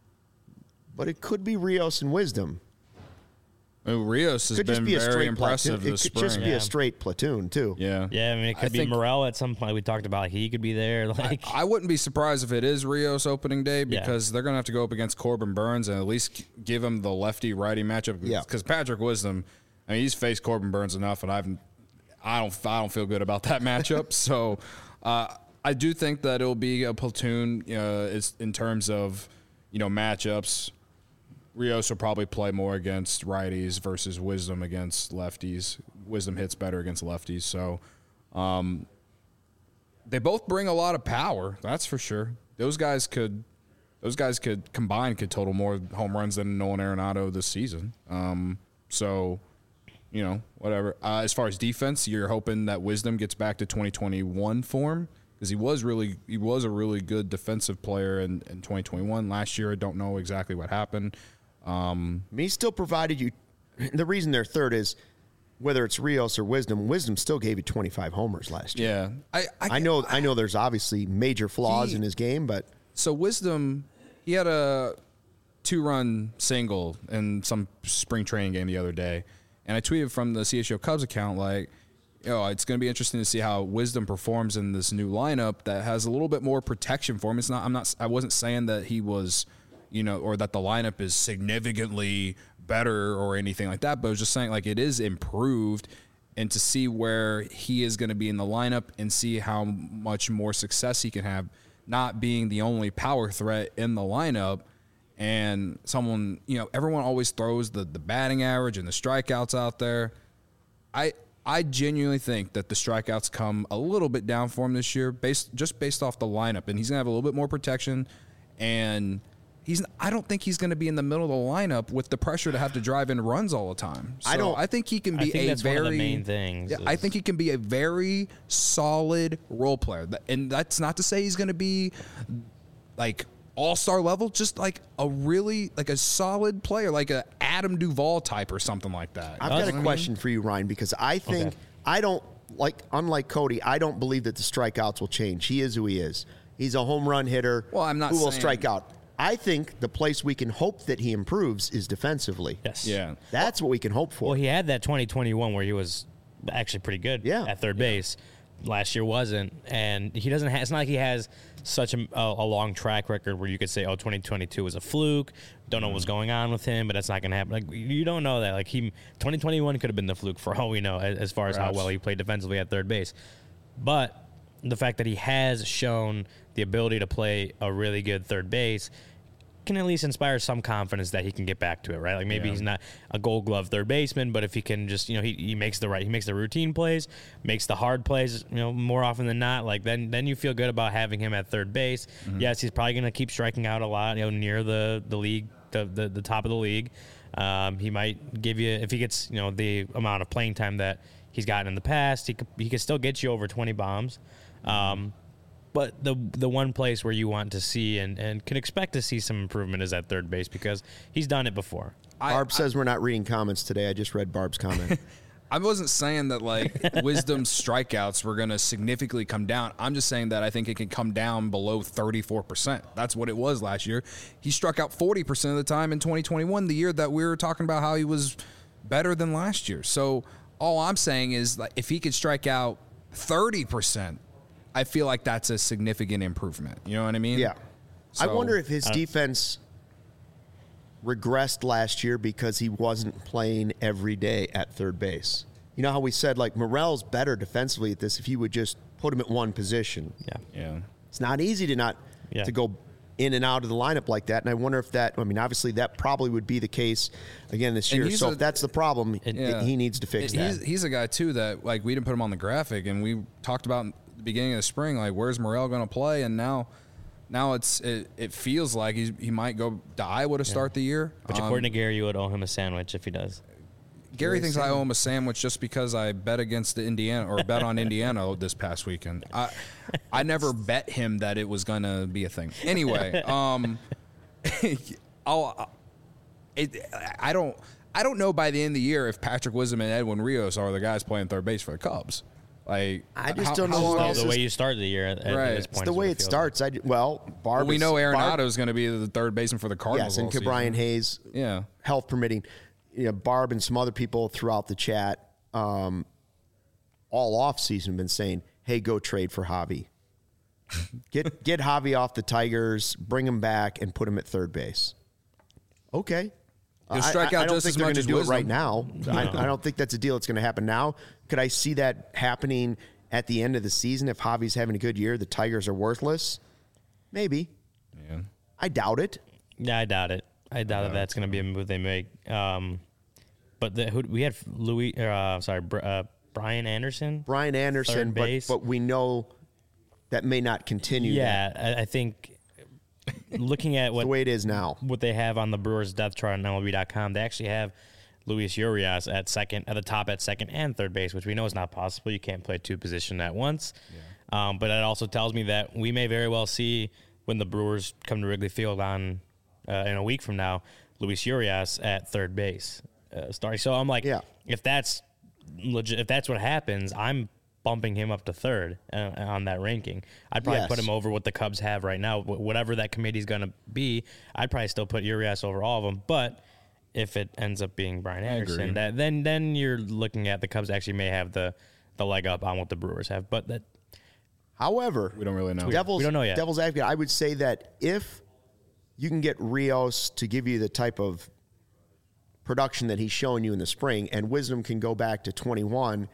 but it could be Rios and Wisdom. Oh, Rios has Could just been be a very straight impressive platoon. this It could spring. just be Yeah. a straight platoon too. yeah. Yeah, I mean, it could I be think- Morel at some point. We talked about he could be there. Like, I wouldn't be surprised if it is Rios opening day Yeah. because they're going to have to go up against Corbin Burns and at least g- give him the lefty-righty matchup. Yeah. Because Patrick Wisdom, I mean, he's faced Corbin Burns enough, and I've, I don't, I don't feel good about that matchup. so, uh, I do think that it'll be a platoon. Uh, is in terms of, you know, matchups. Rios will probably play more against righties versus Wisdom against lefties. Wisdom hits better against lefties, so. Um, They both bring a lot of power, that's for sure. Those guys could, those guys could combine could total more home runs than Nolan Arenado this season. Um, so, you know, whatever. Uh, as far as defense, you're hoping that Wisdom gets back to twenty twenty-one form because he was really, he was a really good defensive player in, in twenty twenty-one. Last year, I don't know exactly what happened. Um, I mean, he still provided you. The reason they're third is whether it's Rios or Wisdom. Wisdom still gave you twenty-five homers last year. yeah, I, I, I know. I know. There's obviously major flaws He- in his game, but So Wisdom, he had a two-run single in some spring training game the other day, and I tweeted from the C H O Cubs account like, "Yo, it's going to be interesting to see how Wisdom performs in this new lineup that has a little bit more protection for him." It's not. I'm not. I wasn't saying that he was, you know, or that the lineup is significantly better or anything like that, but I was just saying like it is improved. And to see where he is going to be in the lineup and see how much more success he can have, not being the only power threat in the lineup, and someone, you know, everyone always throws the, the batting average and the strikeouts out there. I I genuinely think that the strikeouts come a little bit down for him this year, based just based off the lineup, and he's gonna have a little bit more protection, and he's I don't think he's gonna be in the middle of the lineup with the pressure to have to drive in runs all the time. So I don't- I think he can I be think a that's very one of the main things. Yeah, I is- think he can be a very solid role player, Th- and that's not to say he's gonna be like all-star level, just like a really like a solid player, like a Adam Duvall type or something like that. I've That's got what a I mean. question for you, Ryan, because I think Okay. I don't like. Unlike Cody, I don't believe that the strikeouts will change. He is who he is. He's a home run hitter. Well, I'm not who will saying- strike out. I think the place we can hope that he improves is defensively. Yes. Yeah. That's what we can hope for. Well, he had that twenty twenty-one where he was actually pretty good Yeah. at third base. Last year wasn't, and he doesn't. have It's not like he has such a, a long track record where you could say, "Oh, twenty twenty-two was a fluke." Don't know what's going on with him, but that's not going to happen. Like you don't know that. Like he, twenty twenty-one could have been the fluke for all we know, as, as far as Perhaps. how well he played defensively at third base. But the fact that he has shown the ability to play a really good third base can at least inspire some confidence that he can get back to it, right? Like maybe Yeah. he's not a Gold Glove third baseman, but if he can just, you know, he, he makes the right, he makes the routine plays, makes the hard plays, you know, more often than not. Like then, then you feel good about having him at third base. Mm-hmm. Yes, he's probably going to keep striking out a lot, you know, near the the league, the the, the top of the league. Um, he might give you, if he gets, you know, the amount of playing time that he's gotten in the past, he could he could still get you over twenty bombs. Um, But the the one place where you want to see and, and can expect to see some improvement is at third base because he's done it before. I, Barb says we're not reading comments today. I just read Barb's comment. I wasn't saying that like Wisdom's strikeouts were going to significantly come down. I'm just saying that I think it can come down below thirty-four percent. That's what it was last year. He struck out forty percent of the time in twenty twenty-one, the year that we were talking about how he was better than last year. So all I'm saying is like if he could strike out thirty percent, I feel like that's a significant improvement. You know what I mean? Yeah. I So- wonder if his Uh, defense regressed last year because he wasn't playing every day at third base. You You know how we said, like, Morel's better defensively at this if you would just put him at one position. Yeah. Yeah. It's not easy to not Yeah. to go in and out of the lineup like that. And I wonder if that, I mean, obviously that probably would be the case again this year. he's So a- if that's the problem, it, Yeah. he needs to fix he's, that. He's a guy, too, that, like, we didn't put him on the graphic, and we talked about in the beginning of the spring, like, where's Morel going to play? And now now it's it, it feels like he's, he might go to Iowa to start the year. Which, Um, according to Gary, you would owe him a sandwich if he does. Gary thinks I owe him a sandwich just because I bet against the Indiana or bet on Indiana this past weekend. I I never bet him that it was going to be a thing. Anyway, um, I'll it I don't I don't know by the end of the year if Patrick Wisdom and Edwin Rios are the guys playing third base for the Cubs. Like I just how- don't know how who long- else the is- way you started the year at, at Right. this It's point. the is way what it feels starts. I, well, Barb Well, we is- know Arenado Barb- is going to be the third baseman for the Cardinals. Yes, and all season. Brian Hayes, Yeah. health permitting, you know, Barb and some other people throughout the chat um, all off season have been saying, hey, go trade for Javi. Get get Javi off the Tigers, bring him back, and put him at third base. Okay. He'll I- strike I, out I don't just think as they're much gonna as do it Wisdom. right now. I, I don't think that's a deal that's going to happen now. Could I see that happening at the end of the season if Javi's having a good year? The Tigers are worthless. Maybe. Yeah. I doubt it. Yeah, I doubt it. I doubt that that's going to be a move they make. Um, but the, who, we had Louis, uh, sorry, Br- uh, Brian Anderson. Brian Anderson, Third but, base. but we know that may not continue. that. Yeah, I, I think looking at what the way it is now. what they have on the Brewers depth chart on M L B dot com, they actually have Luis Urias at second, at the top at second and third base, which we know is not possible. You can't play two positions at once. Yeah. Um, but that also tells me that we may very well see when the Brewers come to Wrigley Field on uh, in a week from now, Luis Urias at third base uh, starting. So I'm like, Yeah. if that's legit, if that's what happens, I'm bumping him up to third uh, on that ranking. I'd probably Yes. put him over what the Cubs have right now. Wh- Whatever that committee's going to be, I'd probably still put Urias over all of them. But if it ends up being Brian agree. Anderson, that, then then you're looking at the Cubs actually may have the, the leg up on what the Brewers have. But that However, We don't really know. Devil's, We don't know yet. Devil's advocate, I would say that if you can get Rios to give you the type of production that he's showing you in the spring, and Wisdom can go back to twenty-one,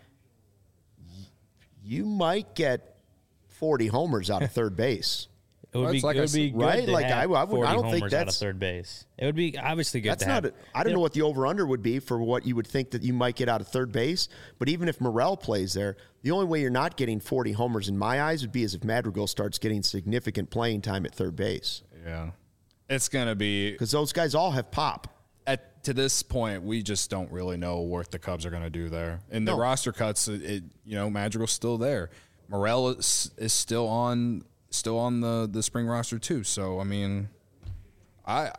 y- you might get forty homers out of third base. it would Well, be, it's like it I would be said- good Right? to Like, have I- I would- I forty don't think homers out of that's- third base. It would be obviously good That's to have. not. A, I don't you know what the over under would be for what you would think that you might get out of third base. But even if Morel plays there, the only way you're not getting forty homers in my eyes would be as if Madrigal starts getting significant playing time at third base, Yeah. It's going to be because those guys all have pop. at to this point, we just don't really know what the Cubs are going to do there. In the No. roster cuts, it, it you know Madrigal's still there. Morel is, is still on still on the, the spring roster too. So I mean, I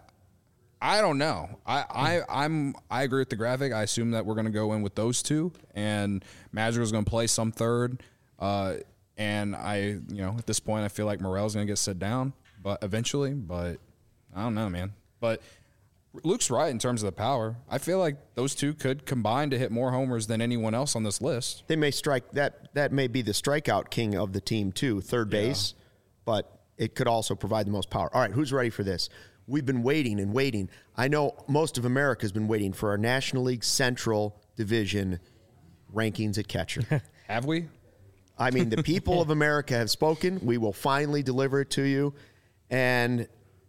I don't know. I, I I'm I agree with the graphic. I assume that we're going to go in with those two, and Madrigal's going to play some third. Uh, and I you know at this point, I feel like Morel's going to get set down, but eventually. But I don't know, man. But Luke's right in terms of the power. I feel like those two could combine to hit more homers than anyone else on this list. They may strike that. That may be the strikeout king of the team too, third base, but it could also provide the most power. All right, who's ready for this? We've been waiting and waiting. I know most of America has been waiting for our National League Central Division rankings at catcher. Have we? I mean, the people of America have spoken. We will finally deliver it to you. And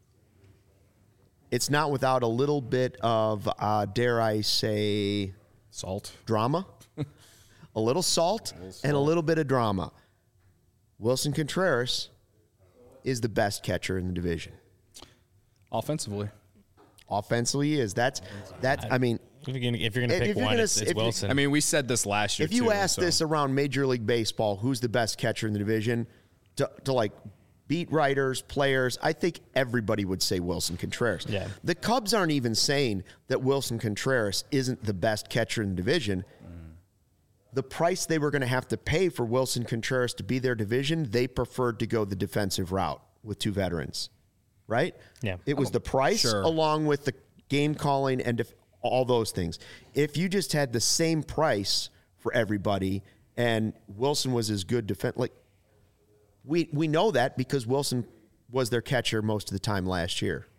it's not without a little bit of, uh, dare I say, Salt. drama. a little salt and a little bit of drama. Wilson Contreras is the best catcher in the division. Offensively. Offensively, he is. That's, that's I mean, If you're gonna, if you're gonna If pick you're one, gonna it's, s- it's if you- Wilson. I mean, we said this last year if you too, ask so- this around Major League Baseball, who's the best catcher in the division, to, to like beat writers, players, I think everybody would say Wilson Contreras. Yeah. The Cubs aren't even saying that Wilson Contreras isn't the best catcher in the division. The price they were going to have to pay for Wilson Contreras to be their division, they preferred to go the defensive route with two veterans, right? Yeah. It was the price Sure. along with the game calling and def- all those things. If you just had the same price for everybody and Wilson was as good defense, like we we know that because Wilson was their catcher most of the time last year. Yeah.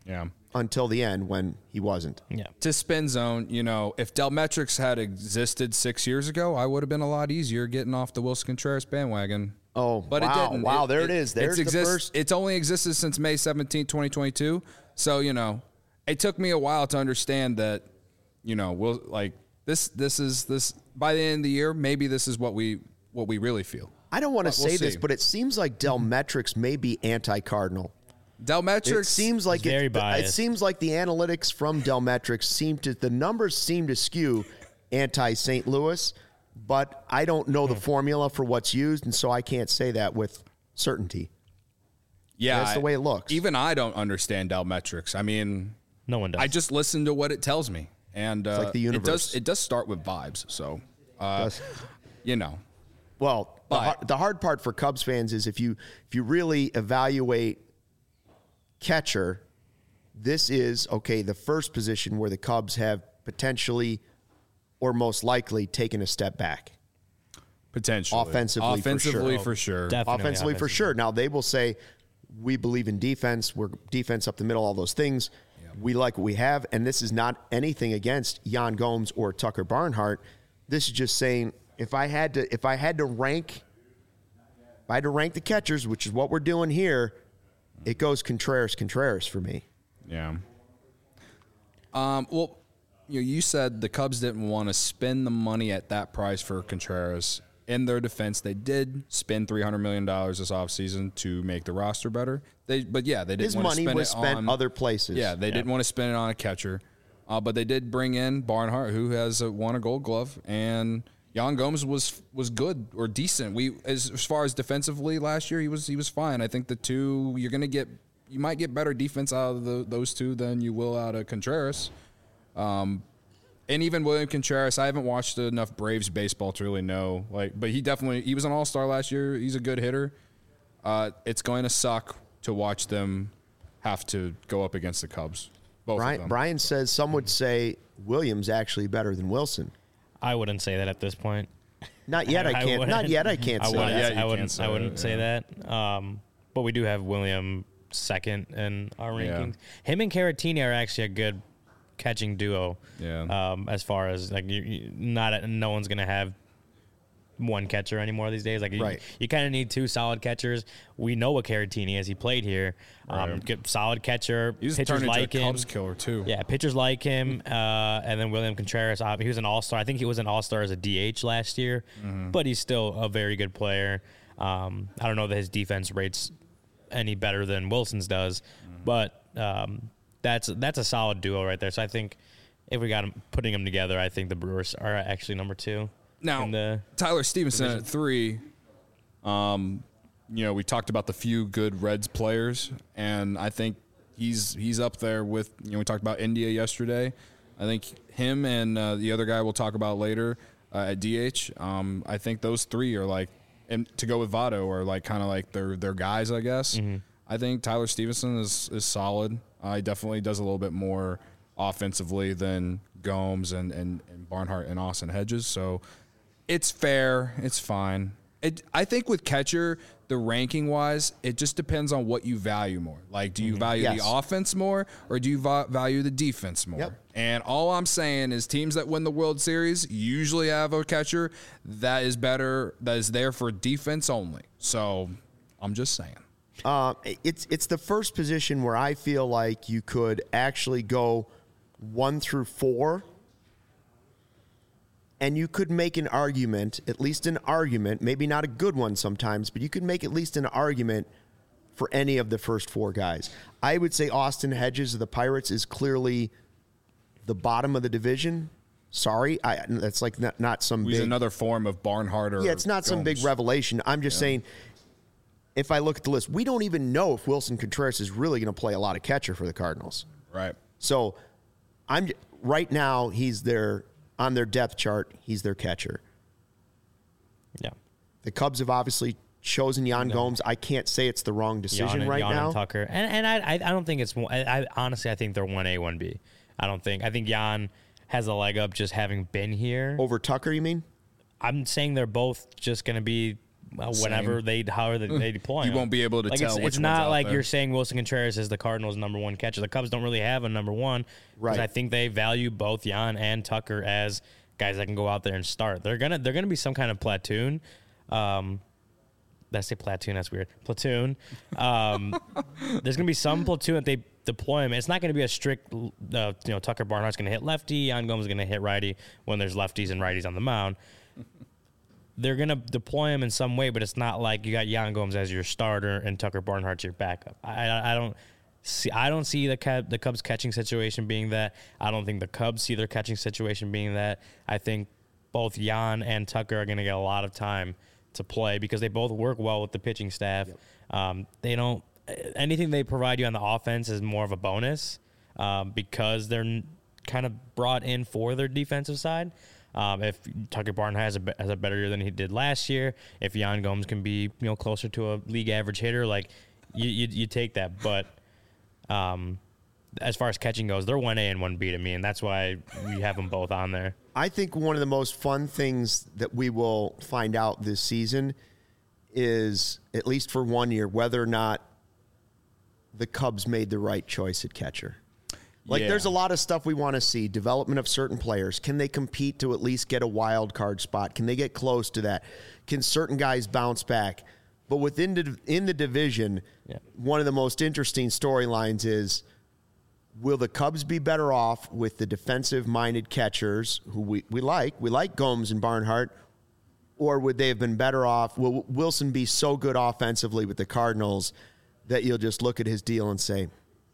until the end when he wasn't. Yeah. To spin zone, you know, if Delmetrics had existed six years ago, I would have been a lot easier getting off the Wilson Contreras bandwagon. Oh, but wow. it didn't. Wow, it, there it is. There's it's the exist, first. It's only existed since May seventeenth, twenty twenty-two. So, you know, it took me a while to understand that, you know, we'll like this this is this by the end of the year, maybe this is what we what we really feel. I don't want to We'll say this, see. but it seems like Delmetrics may be anti-Cardinal. Delmetrics It seems like very it, biased. it seems like the analytics from Delmetrics seem to the numbers seem to skew anti-Saint Louis, but I don't know the formula for what's used, and so I can't say that with certainty. Yeah, That's the way it looks. Even I don't understand Delmetrics. I mean, No one does. I just listen to what it tells me, and uh, like the it universe. does. It does start with vibes. So, uh, Does. you know, Well, the, But- har- the hard part for Cubs fans is if you if you really evaluate catcher, this is okay. The first position where the Cubs have potentially or most likely taken a step back. potentially Offensively, for offensively sure. for sure. Definitely Offensively, for offensively. sure. Now they will say, we believe in defense. We're defense up the middle, all those things. We like what we have. And this is not anything against Jan Gomes or Tucker Barnhart. This is just saying if I had to if I had to rank if I had to rank the catchers, which is what we're doing here, it goes Contreras, Contreras for me. Yeah. Um. Well, you know, you said the Cubs didn't want to spend the money at that price for Contreras. In their defense, they did spend three hundred million dollars this offseason to make the roster better. They, but yeah, they didn't His want to money spend was it spent on other places. Yeah, they didn't want to spend it on a catcher, uh, but they did bring in Barnhart, who has uh, won a Gold Glove, and Jan Gomes was was good or decent. We as, as far as defensively last year, he was he was fine. I think the two you're gonna get you might get better defense out of the, those two than you will out of Contreras. Um, and even William Contreras, I haven't watched enough Braves baseball to really know. Like, but he definitely he was an All Star last year. He's a good hitter. Uh, it's going to suck to watch them have to go up against the Cubs. Both of Brian, them. Brian says some would say Williams actually better than Wilson. I wouldn't say that at this point. Not yet. I can't. wouldn't. not yet. I can't I say wouldn't. that. yet you I can't wouldn't. say I wouldn't that, say yeah. that. Um, but we do have William second in our Yeah. rankings. Him and Caratini are actually a good catching duo. Yeah. Um, as far as like you, you not no one's gonna have one catcher anymore these days. Like you, Right. you kind of need two solid catchers. We know what Caratini is. He played here. Um, Right. good, solid catcher. He's pitchers turned into like a him. Cubs killer too. Yeah, pitchers like him, uh, and then William Contreras. Uh, he was an all-star. I think he was an all-star as a D H last year, but he's still a very good player. Um, I don't know that his defense rates any better than Wilson's does, but um, that's that's a solid duo right there. So I think if we got him putting them together, I think the Brewers are actually number two. Now, in the Tyler Stevenson division. at three. Um, you know, we talked about the few good Reds players, and I think he's he's up there with. You know, we talked about India yesterday. I think him and uh, the other guy we'll talk about later uh, at D H. Um, I think those three are like, and to go with Votto are like kind of like their their guys, I guess. I think Tyler Stevenson is is solid. Uh, he definitely does a little bit more offensively than Gomes and, and, and Barnhart and Austin Hedges. So it's fair. It's fine. It, I think with catcher, the ranking wise, it just depends on what you value more. Like, do you value Yes. the offense more or do you va- value the defense more? Yep. And all I'm saying is teams that win the World Series usually have a catcher that is better, that is there for defense only. So I'm just saying. Uh, it's it's the first position where I feel like you could actually go one through four, and you could make an argument, at least an argument, maybe not a good one sometimes, but you could make at least an argument for any of the first four guys. I would say Austin Hedges of the Pirates is clearly the bottom of the division. Sorry, I, that's like not, not some He's big another form of Barnhart or yeah, it's not some big Gomes. revelation. I'm just saying, if I look at the list, we don't even know if Wilson Contreras is really going to play a lot of catcher for the Cardinals. Right. So, I'm right now he's their on their depth chart. He's their catcher. yeah. The Cubs have obviously chosen Jan Gomes. I can't say it's the wrong decision Jan and, right Jan now. and Tucker, and and I I I don't think it's. I, I honestly I think they're one A one B. I don't think I think Jan has a leg up just having been here. Over Tucker, you mean? I'm saying they're both just going to be well, whenever Same. they, however they, they deploy You him. won't be able to like tell It's, which it's one's not out like there. you're saying Wilson Contreras is the Cardinals' number one catcher. The Cubs don't really have a number one. Right. I think they value both Jan and Tucker as guys that can go out there and start. They're gonna they're gonna be some kind of platoon. Um, did I say platoon? That's weird. Platoon. Um, there's gonna be some platoon that they deploy him. It's not gonna be a strict. Uh, you know, Tucker Barnhart's gonna hit lefty. Jan Gomes is gonna hit righty when there's lefties and righties on the mound. They're gonna deploy him in some way, but it's not like you got Jan Gomes as your starter and Tucker Barnhart's your backup. I, I, I don't see. I don't see the Cub, the Cubs catching situation being that. I don't think the Cubs see their catching situation being that. I think both Jan and Tucker are gonna get a lot of time to play because they both work well with the pitching staff. Yep. Um, they don't. Anything they provide you on the offense is more of a bonus um, because they're n- kind of brought in for their defensive side. Um, if Tucker Barnhart has a, has a better year than he did last year, if Jan Gomes can be you know closer to a league average hitter, like you you, you take that. But um, as far as catching goes, they're one A and one B to me, and that's why we have them both on there. I think one of the most fun things that we will find out this season is, at least for one year, whether or not the Cubs made the right choice at catcher. Like, Yeah. there's a lot of stuff we want to see. Development of certain players. Can they compete to at least get a wild card spot? Can they get close to that? Can certain guys bounce back? But within the, in the division, Yeah. one of the most interesting storylines is, will the Cubs be better off with the defensive-minded catchers who we, we like? We like Gomes and Barnhart. Or would they have been better off? Will Wilson be so good offensively with the Cardinals that you'll just look at his deal and say,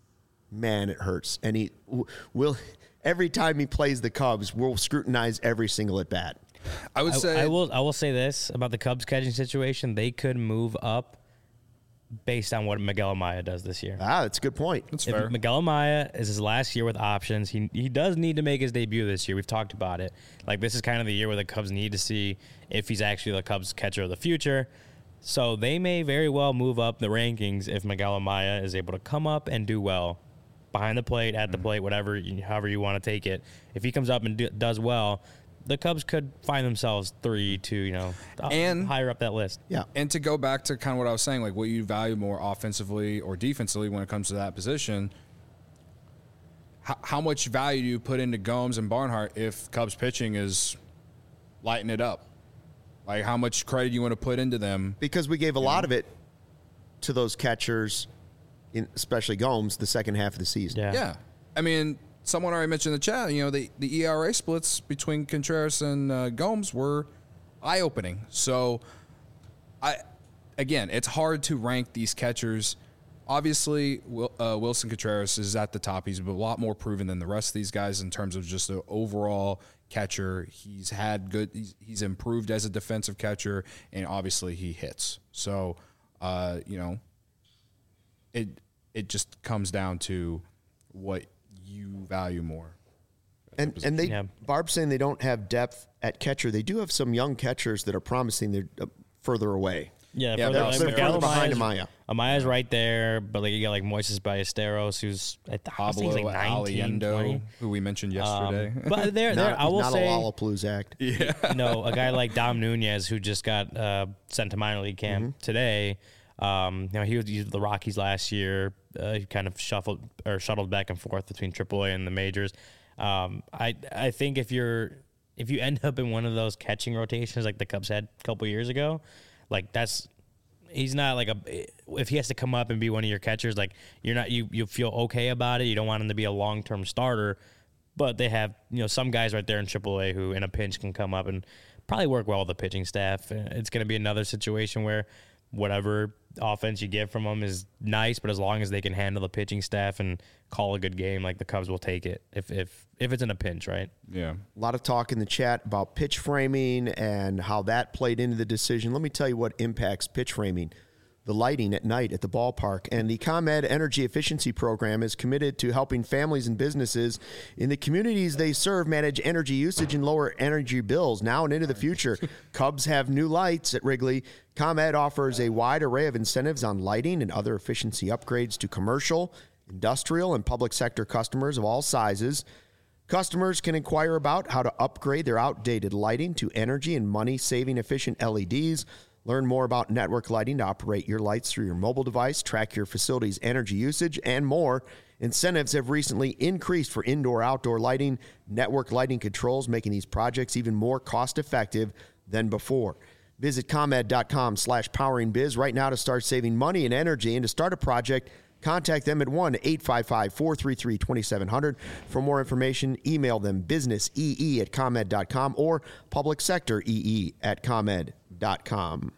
man, it hurts. And he will, every time he plays the Cubs, we'll scrutinize every single at bat. I would I, say I will I will say this about the Cubs catching situation: they could move up based on what Miguel Amaya does this year. Ah, that's a good point. That's If fair. Miguel Amaya is his last year with options, he he does need to make his debut this year. We've talked about it. Like, this is kind of the year where the Cubs need to see if he's actually the Cubs catcher of the future. So they may very well move up the rankings if Miguel Amaya is able to come up and do well behind the plate, at the plate, whatever, you- however you want to take it. If he comes up and do, does well, the Cubs could find themselves three, two, you know, And- higher up that list. Yeah. And to go back to kind of what I was saying, like what you value more offensively or defensively when it comes to that position, how, how much value do you put into Gomes and Barnhart if Cubs pitching is lighting it up? Like, how much credit do you want to put into them? Because we gave a lot of it to those catchers, in, especially Gomes, the second half of the season. Yeah. Yeah. I mean, someone already mentioned in the chat, you know, the, the E R A splits between Contreras and uh, Gomes were eye-opening. So, I again, it's hard to rank these catchers. Obviously, Wil- uh, Wilson Contreras is at the top. He's a lot more proven than the rest of these guys in terms of just the overall catcher. He's had good. He's, he's improved as a defensive catcher, and obviously he hits. So, uh, you know, it it just comes down to what you value more. And and they Yeah. Barb's saying they don't have depth at catcher. They do have some young catchers that are promising. They're uh, further away. Yeah, Yeah, further, they're- like they're Miguel further behind Amaya's- Amaya. Amaya's right there, but like you got like Moises Ballesteros, who's I th- I think he's Pablo like nineteen, Aliendo, twenty. who we mentioned Um, yesterday. but there, there, Not, I will not say, a Lollapalooza act. you know, a guy like Dom Nunez, who just got uh, sent to minor league camp Mm-hmm. today. Um, you know, he was, he was the Rockies last year. Uh, he kind of shuffled or shuttled back and forth between triple A and the majors. Um, I I think if you're if you end up in one of those catching rotations like the Cubs had a couple years ago, like that's he's not like a if he has to come up and be one of your catchers, like you're not you you feel okay about it. You don't want him to be a long term starter, but they have you know some guys right there in triple A who in a pinch can come up and probably work well with the pitching staff. It's going to be another situation where whatever offense you get from them is nice, but as long as they can handle the pitching staff and call a good game, like the Cubs will take it if if if it's in a pinch, right? yeah. A lot of talk in the chat about pitch framing and how that played into the decision. Let me tell you what impacts pitch framing. The lighting at night at the ballpark. And the ComEd Energy Efficiency Program is committed to helping families and businesses in the communities they serve manage energy usage and lower energy bills now and into the future. Cubs have new lights at Wrigley. ComEd offers a wide array of incentives on lighting and other efficiency upgrades to commercial, industrial, and public sector customers of all sizes. Customers can inquire about how to upgrade their outdated lighting to energy and money-saving efficient L E Ds. Learn more about Network Lighting to operate your lights through your mobile device, track your facility's energy usage, and more. Incentives have recently increased for indoor-outdoor lighting. Network Lighting controls, making these projects even more cost-effective than before. Visit ComEd.com slash poweringbiz right now to start saving money and energy. And to start a project, contact them at one eight five five, four three three, two seven zero zero. For more information, email them businessee at ComEd dot com or publicsectoree at ComEd dot com.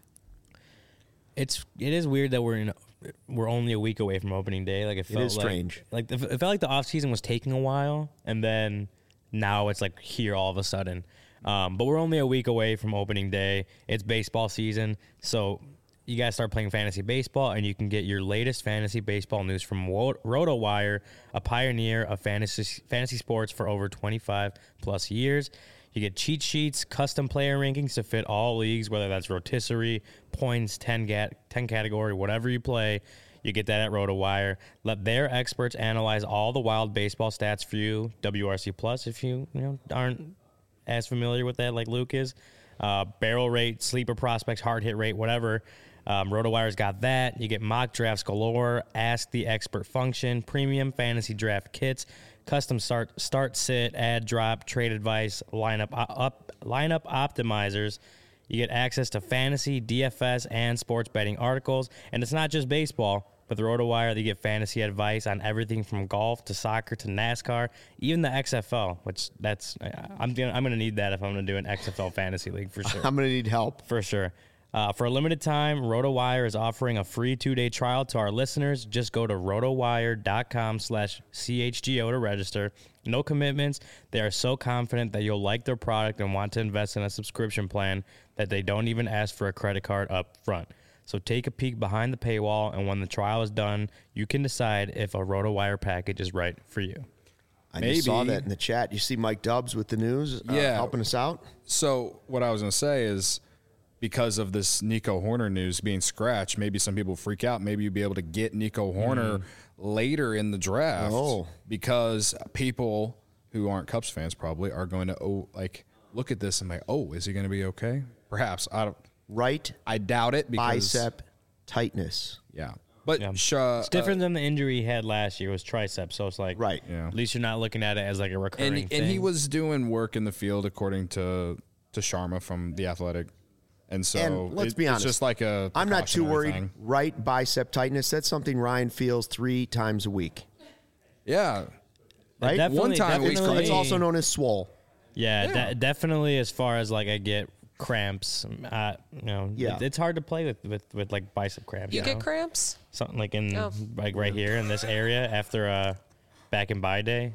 It's it is weird that we're in we're only a week away from opening day. Like it felt It is like, strange. Like it felt like the off season was taking a while, and then now it's like here all of a sudden. Um, but we're only a week away from opening day. It's baseball season, so you guys start playing fantasy baseball, and you can get your latest fantasy baseball news from Wo- RotoWire, a pioneer of fantasy fantasy sports for over twenty-five plus years. You get cheat sheets, custom player rankings to fit all leagues, whether that's rotisserie, points, ten, ga- ten category, whatever you play. You get that at RotoWire. Let their experts analyze all the wild baseball stats for you. W R C Plus, if you, you know, aren't as familiar with that like Luke is. Uh, barrel rate, sleeper prospects, hard hit rate, whatever. Um, RotoWire's got that. You get mock drafts galore, Ask the Expert function, premium fantasy draft kits, custom start, start, sit, add, drop, trade advice, lineup up, lineup optimizers. You get access to fantasy, D F S, and sports betting articles. And it's not just baseball. With RotoWire, you get fantasy advice on everything from golf to soccer to NASCAR, even the X F L, which that's I'm gonna, I'm going to need that if I'm going to do an X F L fantasy league for sure. I'm going to need help. For sure. Uh, for a limited time, RotoWire is offering a free two-day trial to our listeners. Just go to rotowire.com slash CHGO to register. No commitments. They are so confident that you'll like their product and want to invest in a subscription plan that they don't even ask for a credit card up front. So take a peek behind the paywall, and when the trial is done, you can decide if a RotoWire package is right for you. I Maybe. just saw that in the chat. You see Mike Dubs with the news uh, Yeah. helping us out? So what I was going to say is because of this Nico Horner news being scratched, maybe some people freak out. Maybe you'll be able to get Nico Horner mm. later in the draft oh. because people who aren't Cubs fans probably are going to oh, like look at this and like, oh, is he going to be okay? Perhaps. I don't. Right. I doubt it because bicep tightness. Yeah. But Yeah. Sh- uh, It's different than the injury he had last year. It was tricep, so it's like Right. Yeah. at least you're not looking at it as like a recurring and, thing. and he was doing work in the field according to to Sharma from The Athletic. And so And let's it- be honest, it's just like a I'm not too precautionary worried. thing. Right bicep tightness, that's something Ryan feels three times a week. Yeah. Right? Definitely- One time we- It's, definitely- it's also known as swole. Yeah, Yeah. De- definitely. As far as like I get cramps, uh, you know, Yeah. it, it's hard to play with, with, with like bicep cramps. You know? get cramps? Something like in Oh. like right here in this area after uh back in by day.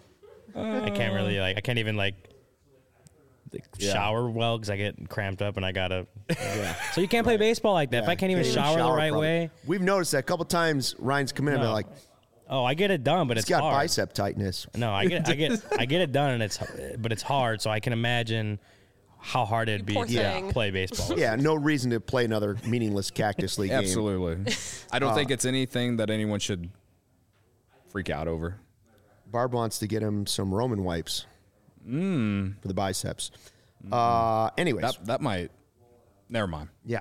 I can't really like I can't even like like, Yeah. shower well because I get cramped up and I gotta. Yeah. So you can't play baseball like that. If I can't even Can't even shower, the right properly. way, We've noticed that a couple times Ryan's come in and No. been like, oh, I get it done, but he's it's got hard. bicep tightness. No, I get I get I get it done, and it's but it's hard. So I can imagine how hard it'd be poor to thing. play baseball. Yeah, no reason to play another meaningless Cactus League game. Absolutely. I don't think it's anything that anyone should freak out over. Barb wants to get him some Roman wipes mm. for the biceps. Uh, anyways, That that might. Never mind. yeah.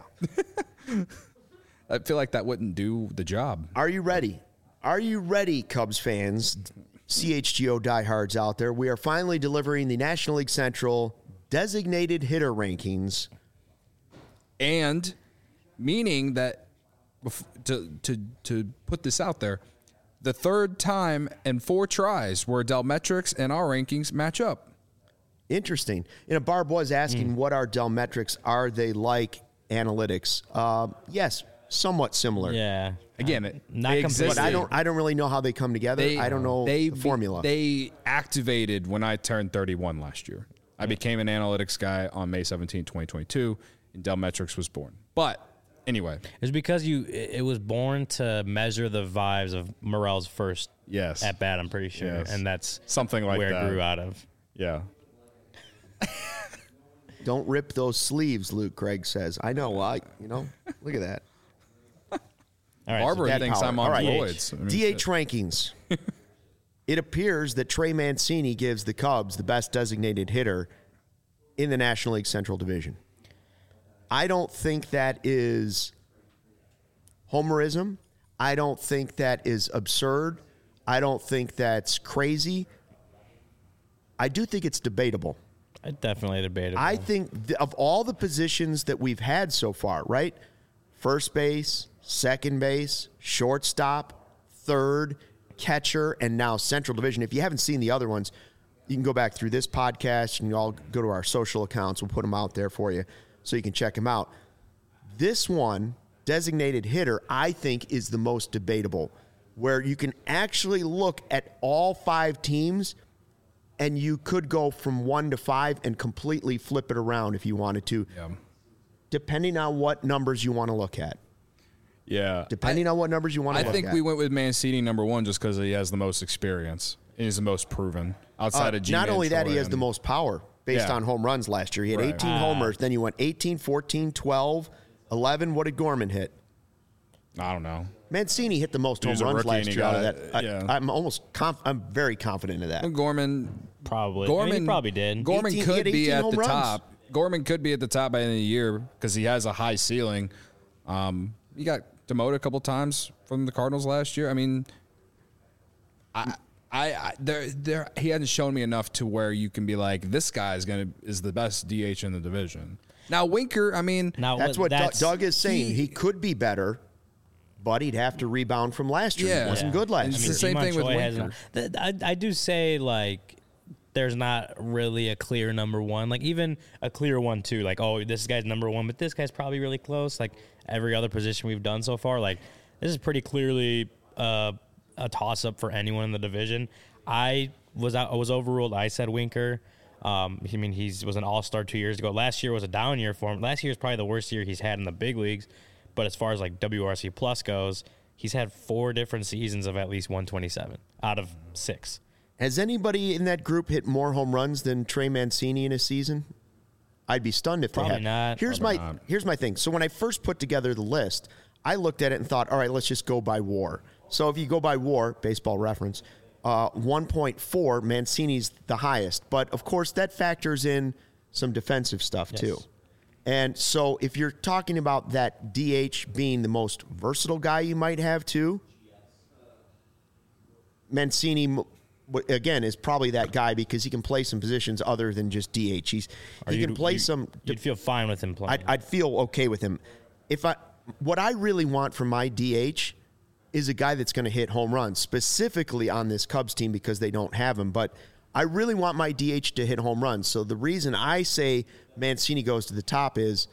I feel like that wouldn't do the job. Are you ready? Are you ready, Cubs fans, C H G O diehards out there? We are finally delivering the National League Central designated hitter rankings. And meaning that bef- to to to put this out there, the third time in four tries where Delmetrics and our rankings match up. Interesting. You know, Barb was asking, Mm. what are Delmetrics? Are they like analytics? Um, yes, somewhat similar. Yeah. Again, it, Not they completely. But I don't. I don't really know how they come together. They, I don't know they, the formula. They activated when I turned thirty-one last year. I became an analytics guy on May seventeenth, twenty twenty-two, and Delmetrics was born. But anyway, It's because you. It it was born to measure the vibes of Morel's first yes, at bat. I'm pretty sure, Yes. and that's something like where that. it grew out of. Yeah. Don't rip those sleeves, Luke. Craig says. I know. I. You know. Look at that. All right, so Barbara that thinks power. I'm on All right. Lloyd's. I mean, D H shit. rankings. It appears that Trey Mancini gives the Cubs the best designated hitter in the National League Central Division. I don't think that is homerism. I don't think that is absurd. I don't think that's crazy. I do think it's debatable. I definitely debatable. I think th- of all the positions that we've had so far, right? First base, second base, shortstop, third, catcher, and now Central Division. If you haven't seen the other ones, you can go back through this podcast and you all go to our social accounts. We'll put them out there for you so you can check them out. This one, designated hitter, I think is the most debatable, where you can actually look at all five teams and you could go from one to five and completely flip it around if you wanted to, Yeah. depending on what numbers you want to look at. Yeah. Depending I, on what numbers you want to I look think at. we went with Mancini number one just because he has the most experience. He's the most proven outside Uh, of G-Man not only that, he Troy has the and- most power based Yeah. on home runs last year. He had Right. eighteen Ah. homers. Then you went eighteen, fourteen, twelve, eleven. What did Gorman hit? I don't know. Mancini hit the most He home was a runs rookie last and he year out of got that. it, I, yeah. I'm almost conf- I'm very confident of that. Gorman probably. Gorman I mean, he probably did. Gorman eighteen he could had be eighteen at home the runs. top. Gorman could be at the top by the end of the year because he has a high ceiling. Um, he got demoted a couple times from the Cardinals last year. I mean, I, I, I there, there, he hasn't shown me enough to where you can be like, this guy is gonna is the best D H in the division. Now Winker, I mean, Now, That's what Doug- that's, Doug is saying. he- He, could be better, but he'd have to rebound from last year. Yeah. He wasn't Yeah. good last It's year. the same Iman thing with Choi Winker. hasn't- th- I, I do say, like, there's not really a clear number one. Like, even a clear one, too. Like, oh, this guy's number one, but this guy's probably really close. Like, every other position we've done so far, like, this is pretty clearly uh, a toss-up for anyone in the division. I was out, I was overruled. I said Winker. Um, I mean, he was an all-star two years ago. Last year was a down year for him. Last year is probably the worst year he's had in the big leagues. But as far as, like, W R C plus goes, he's had four different seasons of at least one twenty-seven out of six. Has anybody in that group hit more home runs than Trey Mancini in a season? I'd be stunned if Probably they had. not. Here's Probably my not. here's my thing. So when I first put together the list, I looked at it and thought, all right, let's just go by WAR. So if you go by WAR, baseball reference, uh, one point four, Mancini's the highest. But of course, that factors in some defensive stuff Yes. too. And so if you're talking about that D H being the most versatile guy you might have too, Mancini, m- w- again, is probably that guy because he can play some positions other than just D H. He's, he you'd- can play you- some. You'd feel fine with him playing. I'd, I'd feel okay with him. If I, what I really want from my D H is a guy that's going to hit home runs, specifically on this Cubs team because they don't have him. But I really want my D H to hit home runs. So the reason I say Mancini goes to the top is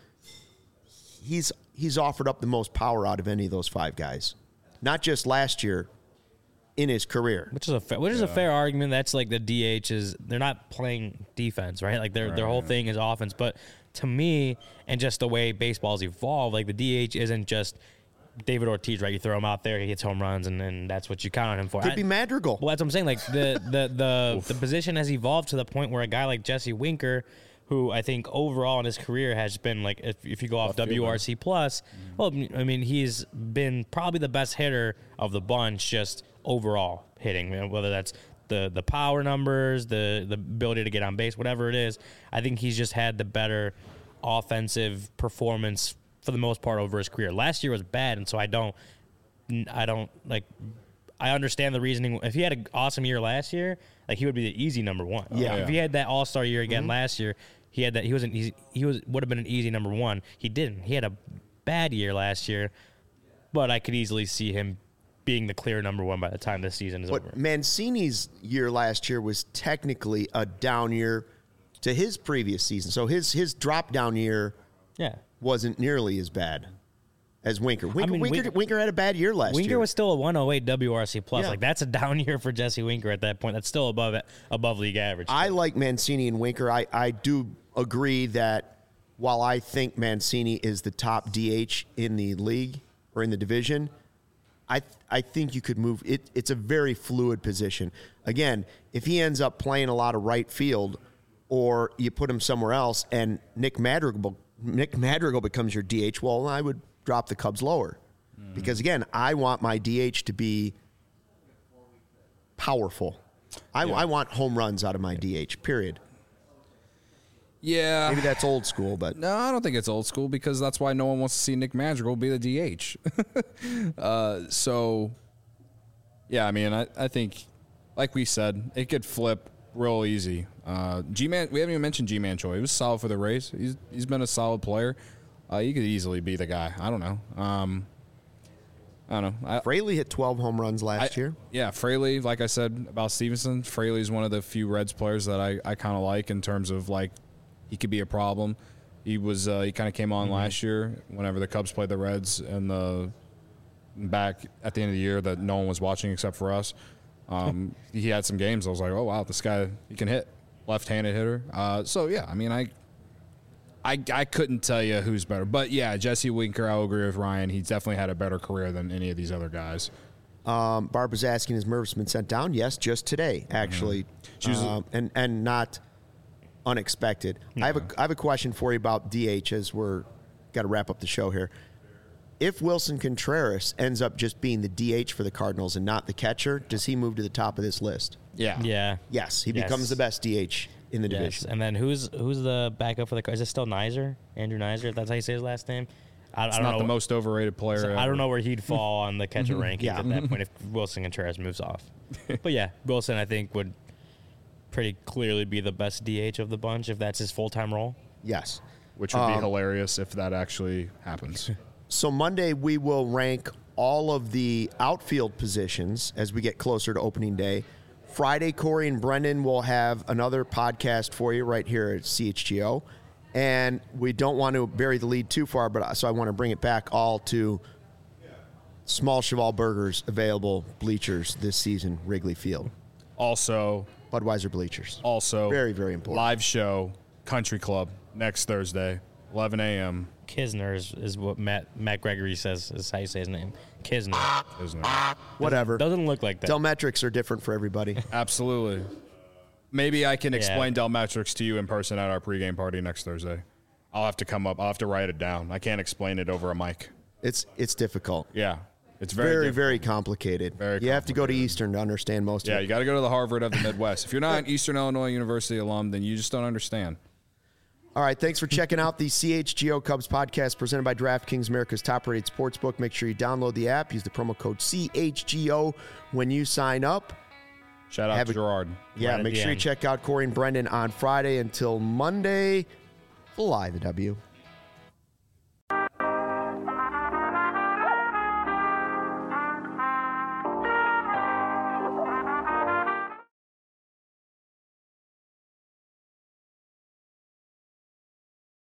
he's he's offered up the most power out of any of those five guys, not just last year, in his career. Which is a fair, which is a fair argument. That's like the D H is they're not playing defense, right? Like their their whole thing is offense. But to me, and just the way baseball's evolved, like the D H isn't just David Ortiz, right? You throw him out there, he hits home runs, and then that's what you count on him for. Could I- be Madrigal. Well, that's what I'm saying. Like the the the, the position has evolved to the point where a guy like Jesse Winker, who I think overall in his career has been like, if, if you go off W R C plus, well, I mean, he's been probably the best hitter of the bunch, just overall hitting. You know, whether that's the the power numbers, the the ability to get on base, whatever it is. I think he's just had the better offensive performance for the most part over his career. Last year was bad, and so I don't, I don't like. I understand the reasoning. If he had an awesome year last year, like he would be the easy number one. Yeah. If he had that All Star year again last year, he had that. He wasn't. He, he was would have been an easy number one. He didn't. He had a bad year last year, but I could easily see him being the clear number one by the time this season is But over. Mancini's year last year was technically a down year to his previous season. So his his drop down year Yeah. wasn't nearly as bad as Winker. Winker, mean, Winker, Wink- Winker had a bad year last Winker year. was still a one oh eight W R C plus. Yeah. Like that's a down year for Jesse Winker at that point. That's still above it, above league average. I like Mancini and Winker. I, I do agree that while I think Mancini is the top D H in the league or in the division, I I think you could move it. It's a very fluid position. Again, if he ends up playing a lot of right field, or you put him somewhere else, and Nick Madrigal Nick Madrigal becomes your D H, well, I would drop the Cubs lower because again, I want my D H to be powerful. I, I want home runs out of my D H. Period. Yeah. Maybe that's old school, but No, I don't think it's old school because that's why no one wants to see Nick Madrigal be the D H. uh, so, yeah, I mean, I, I think, like we said, it could flip real easy. Uh, G-Man, we haven't even mentioned G-Man Choi. He was solid for the Rays. He's he's been a solid player. Uh, he could easily be the guy. I don't know. Um, I don't know. I, Fraley hit twelve home runs last I, year. Yeah, Fraley, like I said about Stevenson, Fraley's one of the few Reds players that I, I kind of like in terms of, like, he could be a problem. He was uh, he kind of came on mm-hmm. last year whenever the Cubs played the Reds and the back at the end of the year that no one was watching except for us. Um, he had some games. I was like, oh, wow, this guy, he can hit. Left-handed hitter. Uh, so, yeah, I mean, I, I I couldn't tell you who's better. But, yeah, Jesse Winker, I'll agree with Ryan. He's definitely had a better career than any of these other guys. Um, Barb was asking, has Mervis been sent down? Yes, just today, actually. Mm-hmm. Um, and, and not unexpected. Mm-hmm. I have a I have a question for you about D H as we're got to wrap up the show here. If Wilson Contreras ends up just being the D H for the Cardinals and not the catcher, does he move to the top of this list? Yeah. Yeah. Yes, he Yes. becomes the best D H in the Yes. division. And then who's who's the backup for the? Is it still Nizer? Andrew Nizer? If that's how you say his last name. I, It's I don't not know. the most overrated player So I ever. don't know where he'd fall on the catcher rankings Yeah. at that point if Wilson Contreras moves off. But yeah, Wilson I think would pretty clearly be the best D H of the bunch if that's his full time role. Yes. Which would be Um, hilarious if that actually happens. So Monday we will rank all of the outfield positions as we get closer to opening day. Friday, Corey and Brendan will have another podcast for you right here at C H G O. And we don't want to bury the lead too far, but so I want to bring it back all to Small Cheval Burgers available bleachers this season, Wrigley Field. Also, Budweiser bleachers. also Very, very important. live show, Country Club, next Thursday, eleven a.m. Kisner is, is what Matt Matt Gregory says is how you say his name. Kisner. Isn't it? Whatever. Doesn't look like that. Delmetrics are different for everybody. Absolutely. Maybe I can Yeah. explain Delmetrics to you in person at our pregame party next Thursday. I'll have to come up. I'll have to write it down. I can't explain it over a mic. It's it's difficult. Yeah. It's very, Very, difficult. very complicated. Very you have to go to complicated. Eastern to understand most Yeah, of it. you got to go to the Harvard of the Midwest. If you're not an Eastern Illinois University alum, then you just don't understand. All right, thanks for checking out the C H G O Cubs podcast presented by DraftKings, America's top-rated sportsbook. Make sure you download the app. Use the promo code C H G O when you sign up. Shout out Have to a- Gerard. Yeah, Right at make the sure you end. check out Corey and Brendan on Friday. Until Monday, fly the W.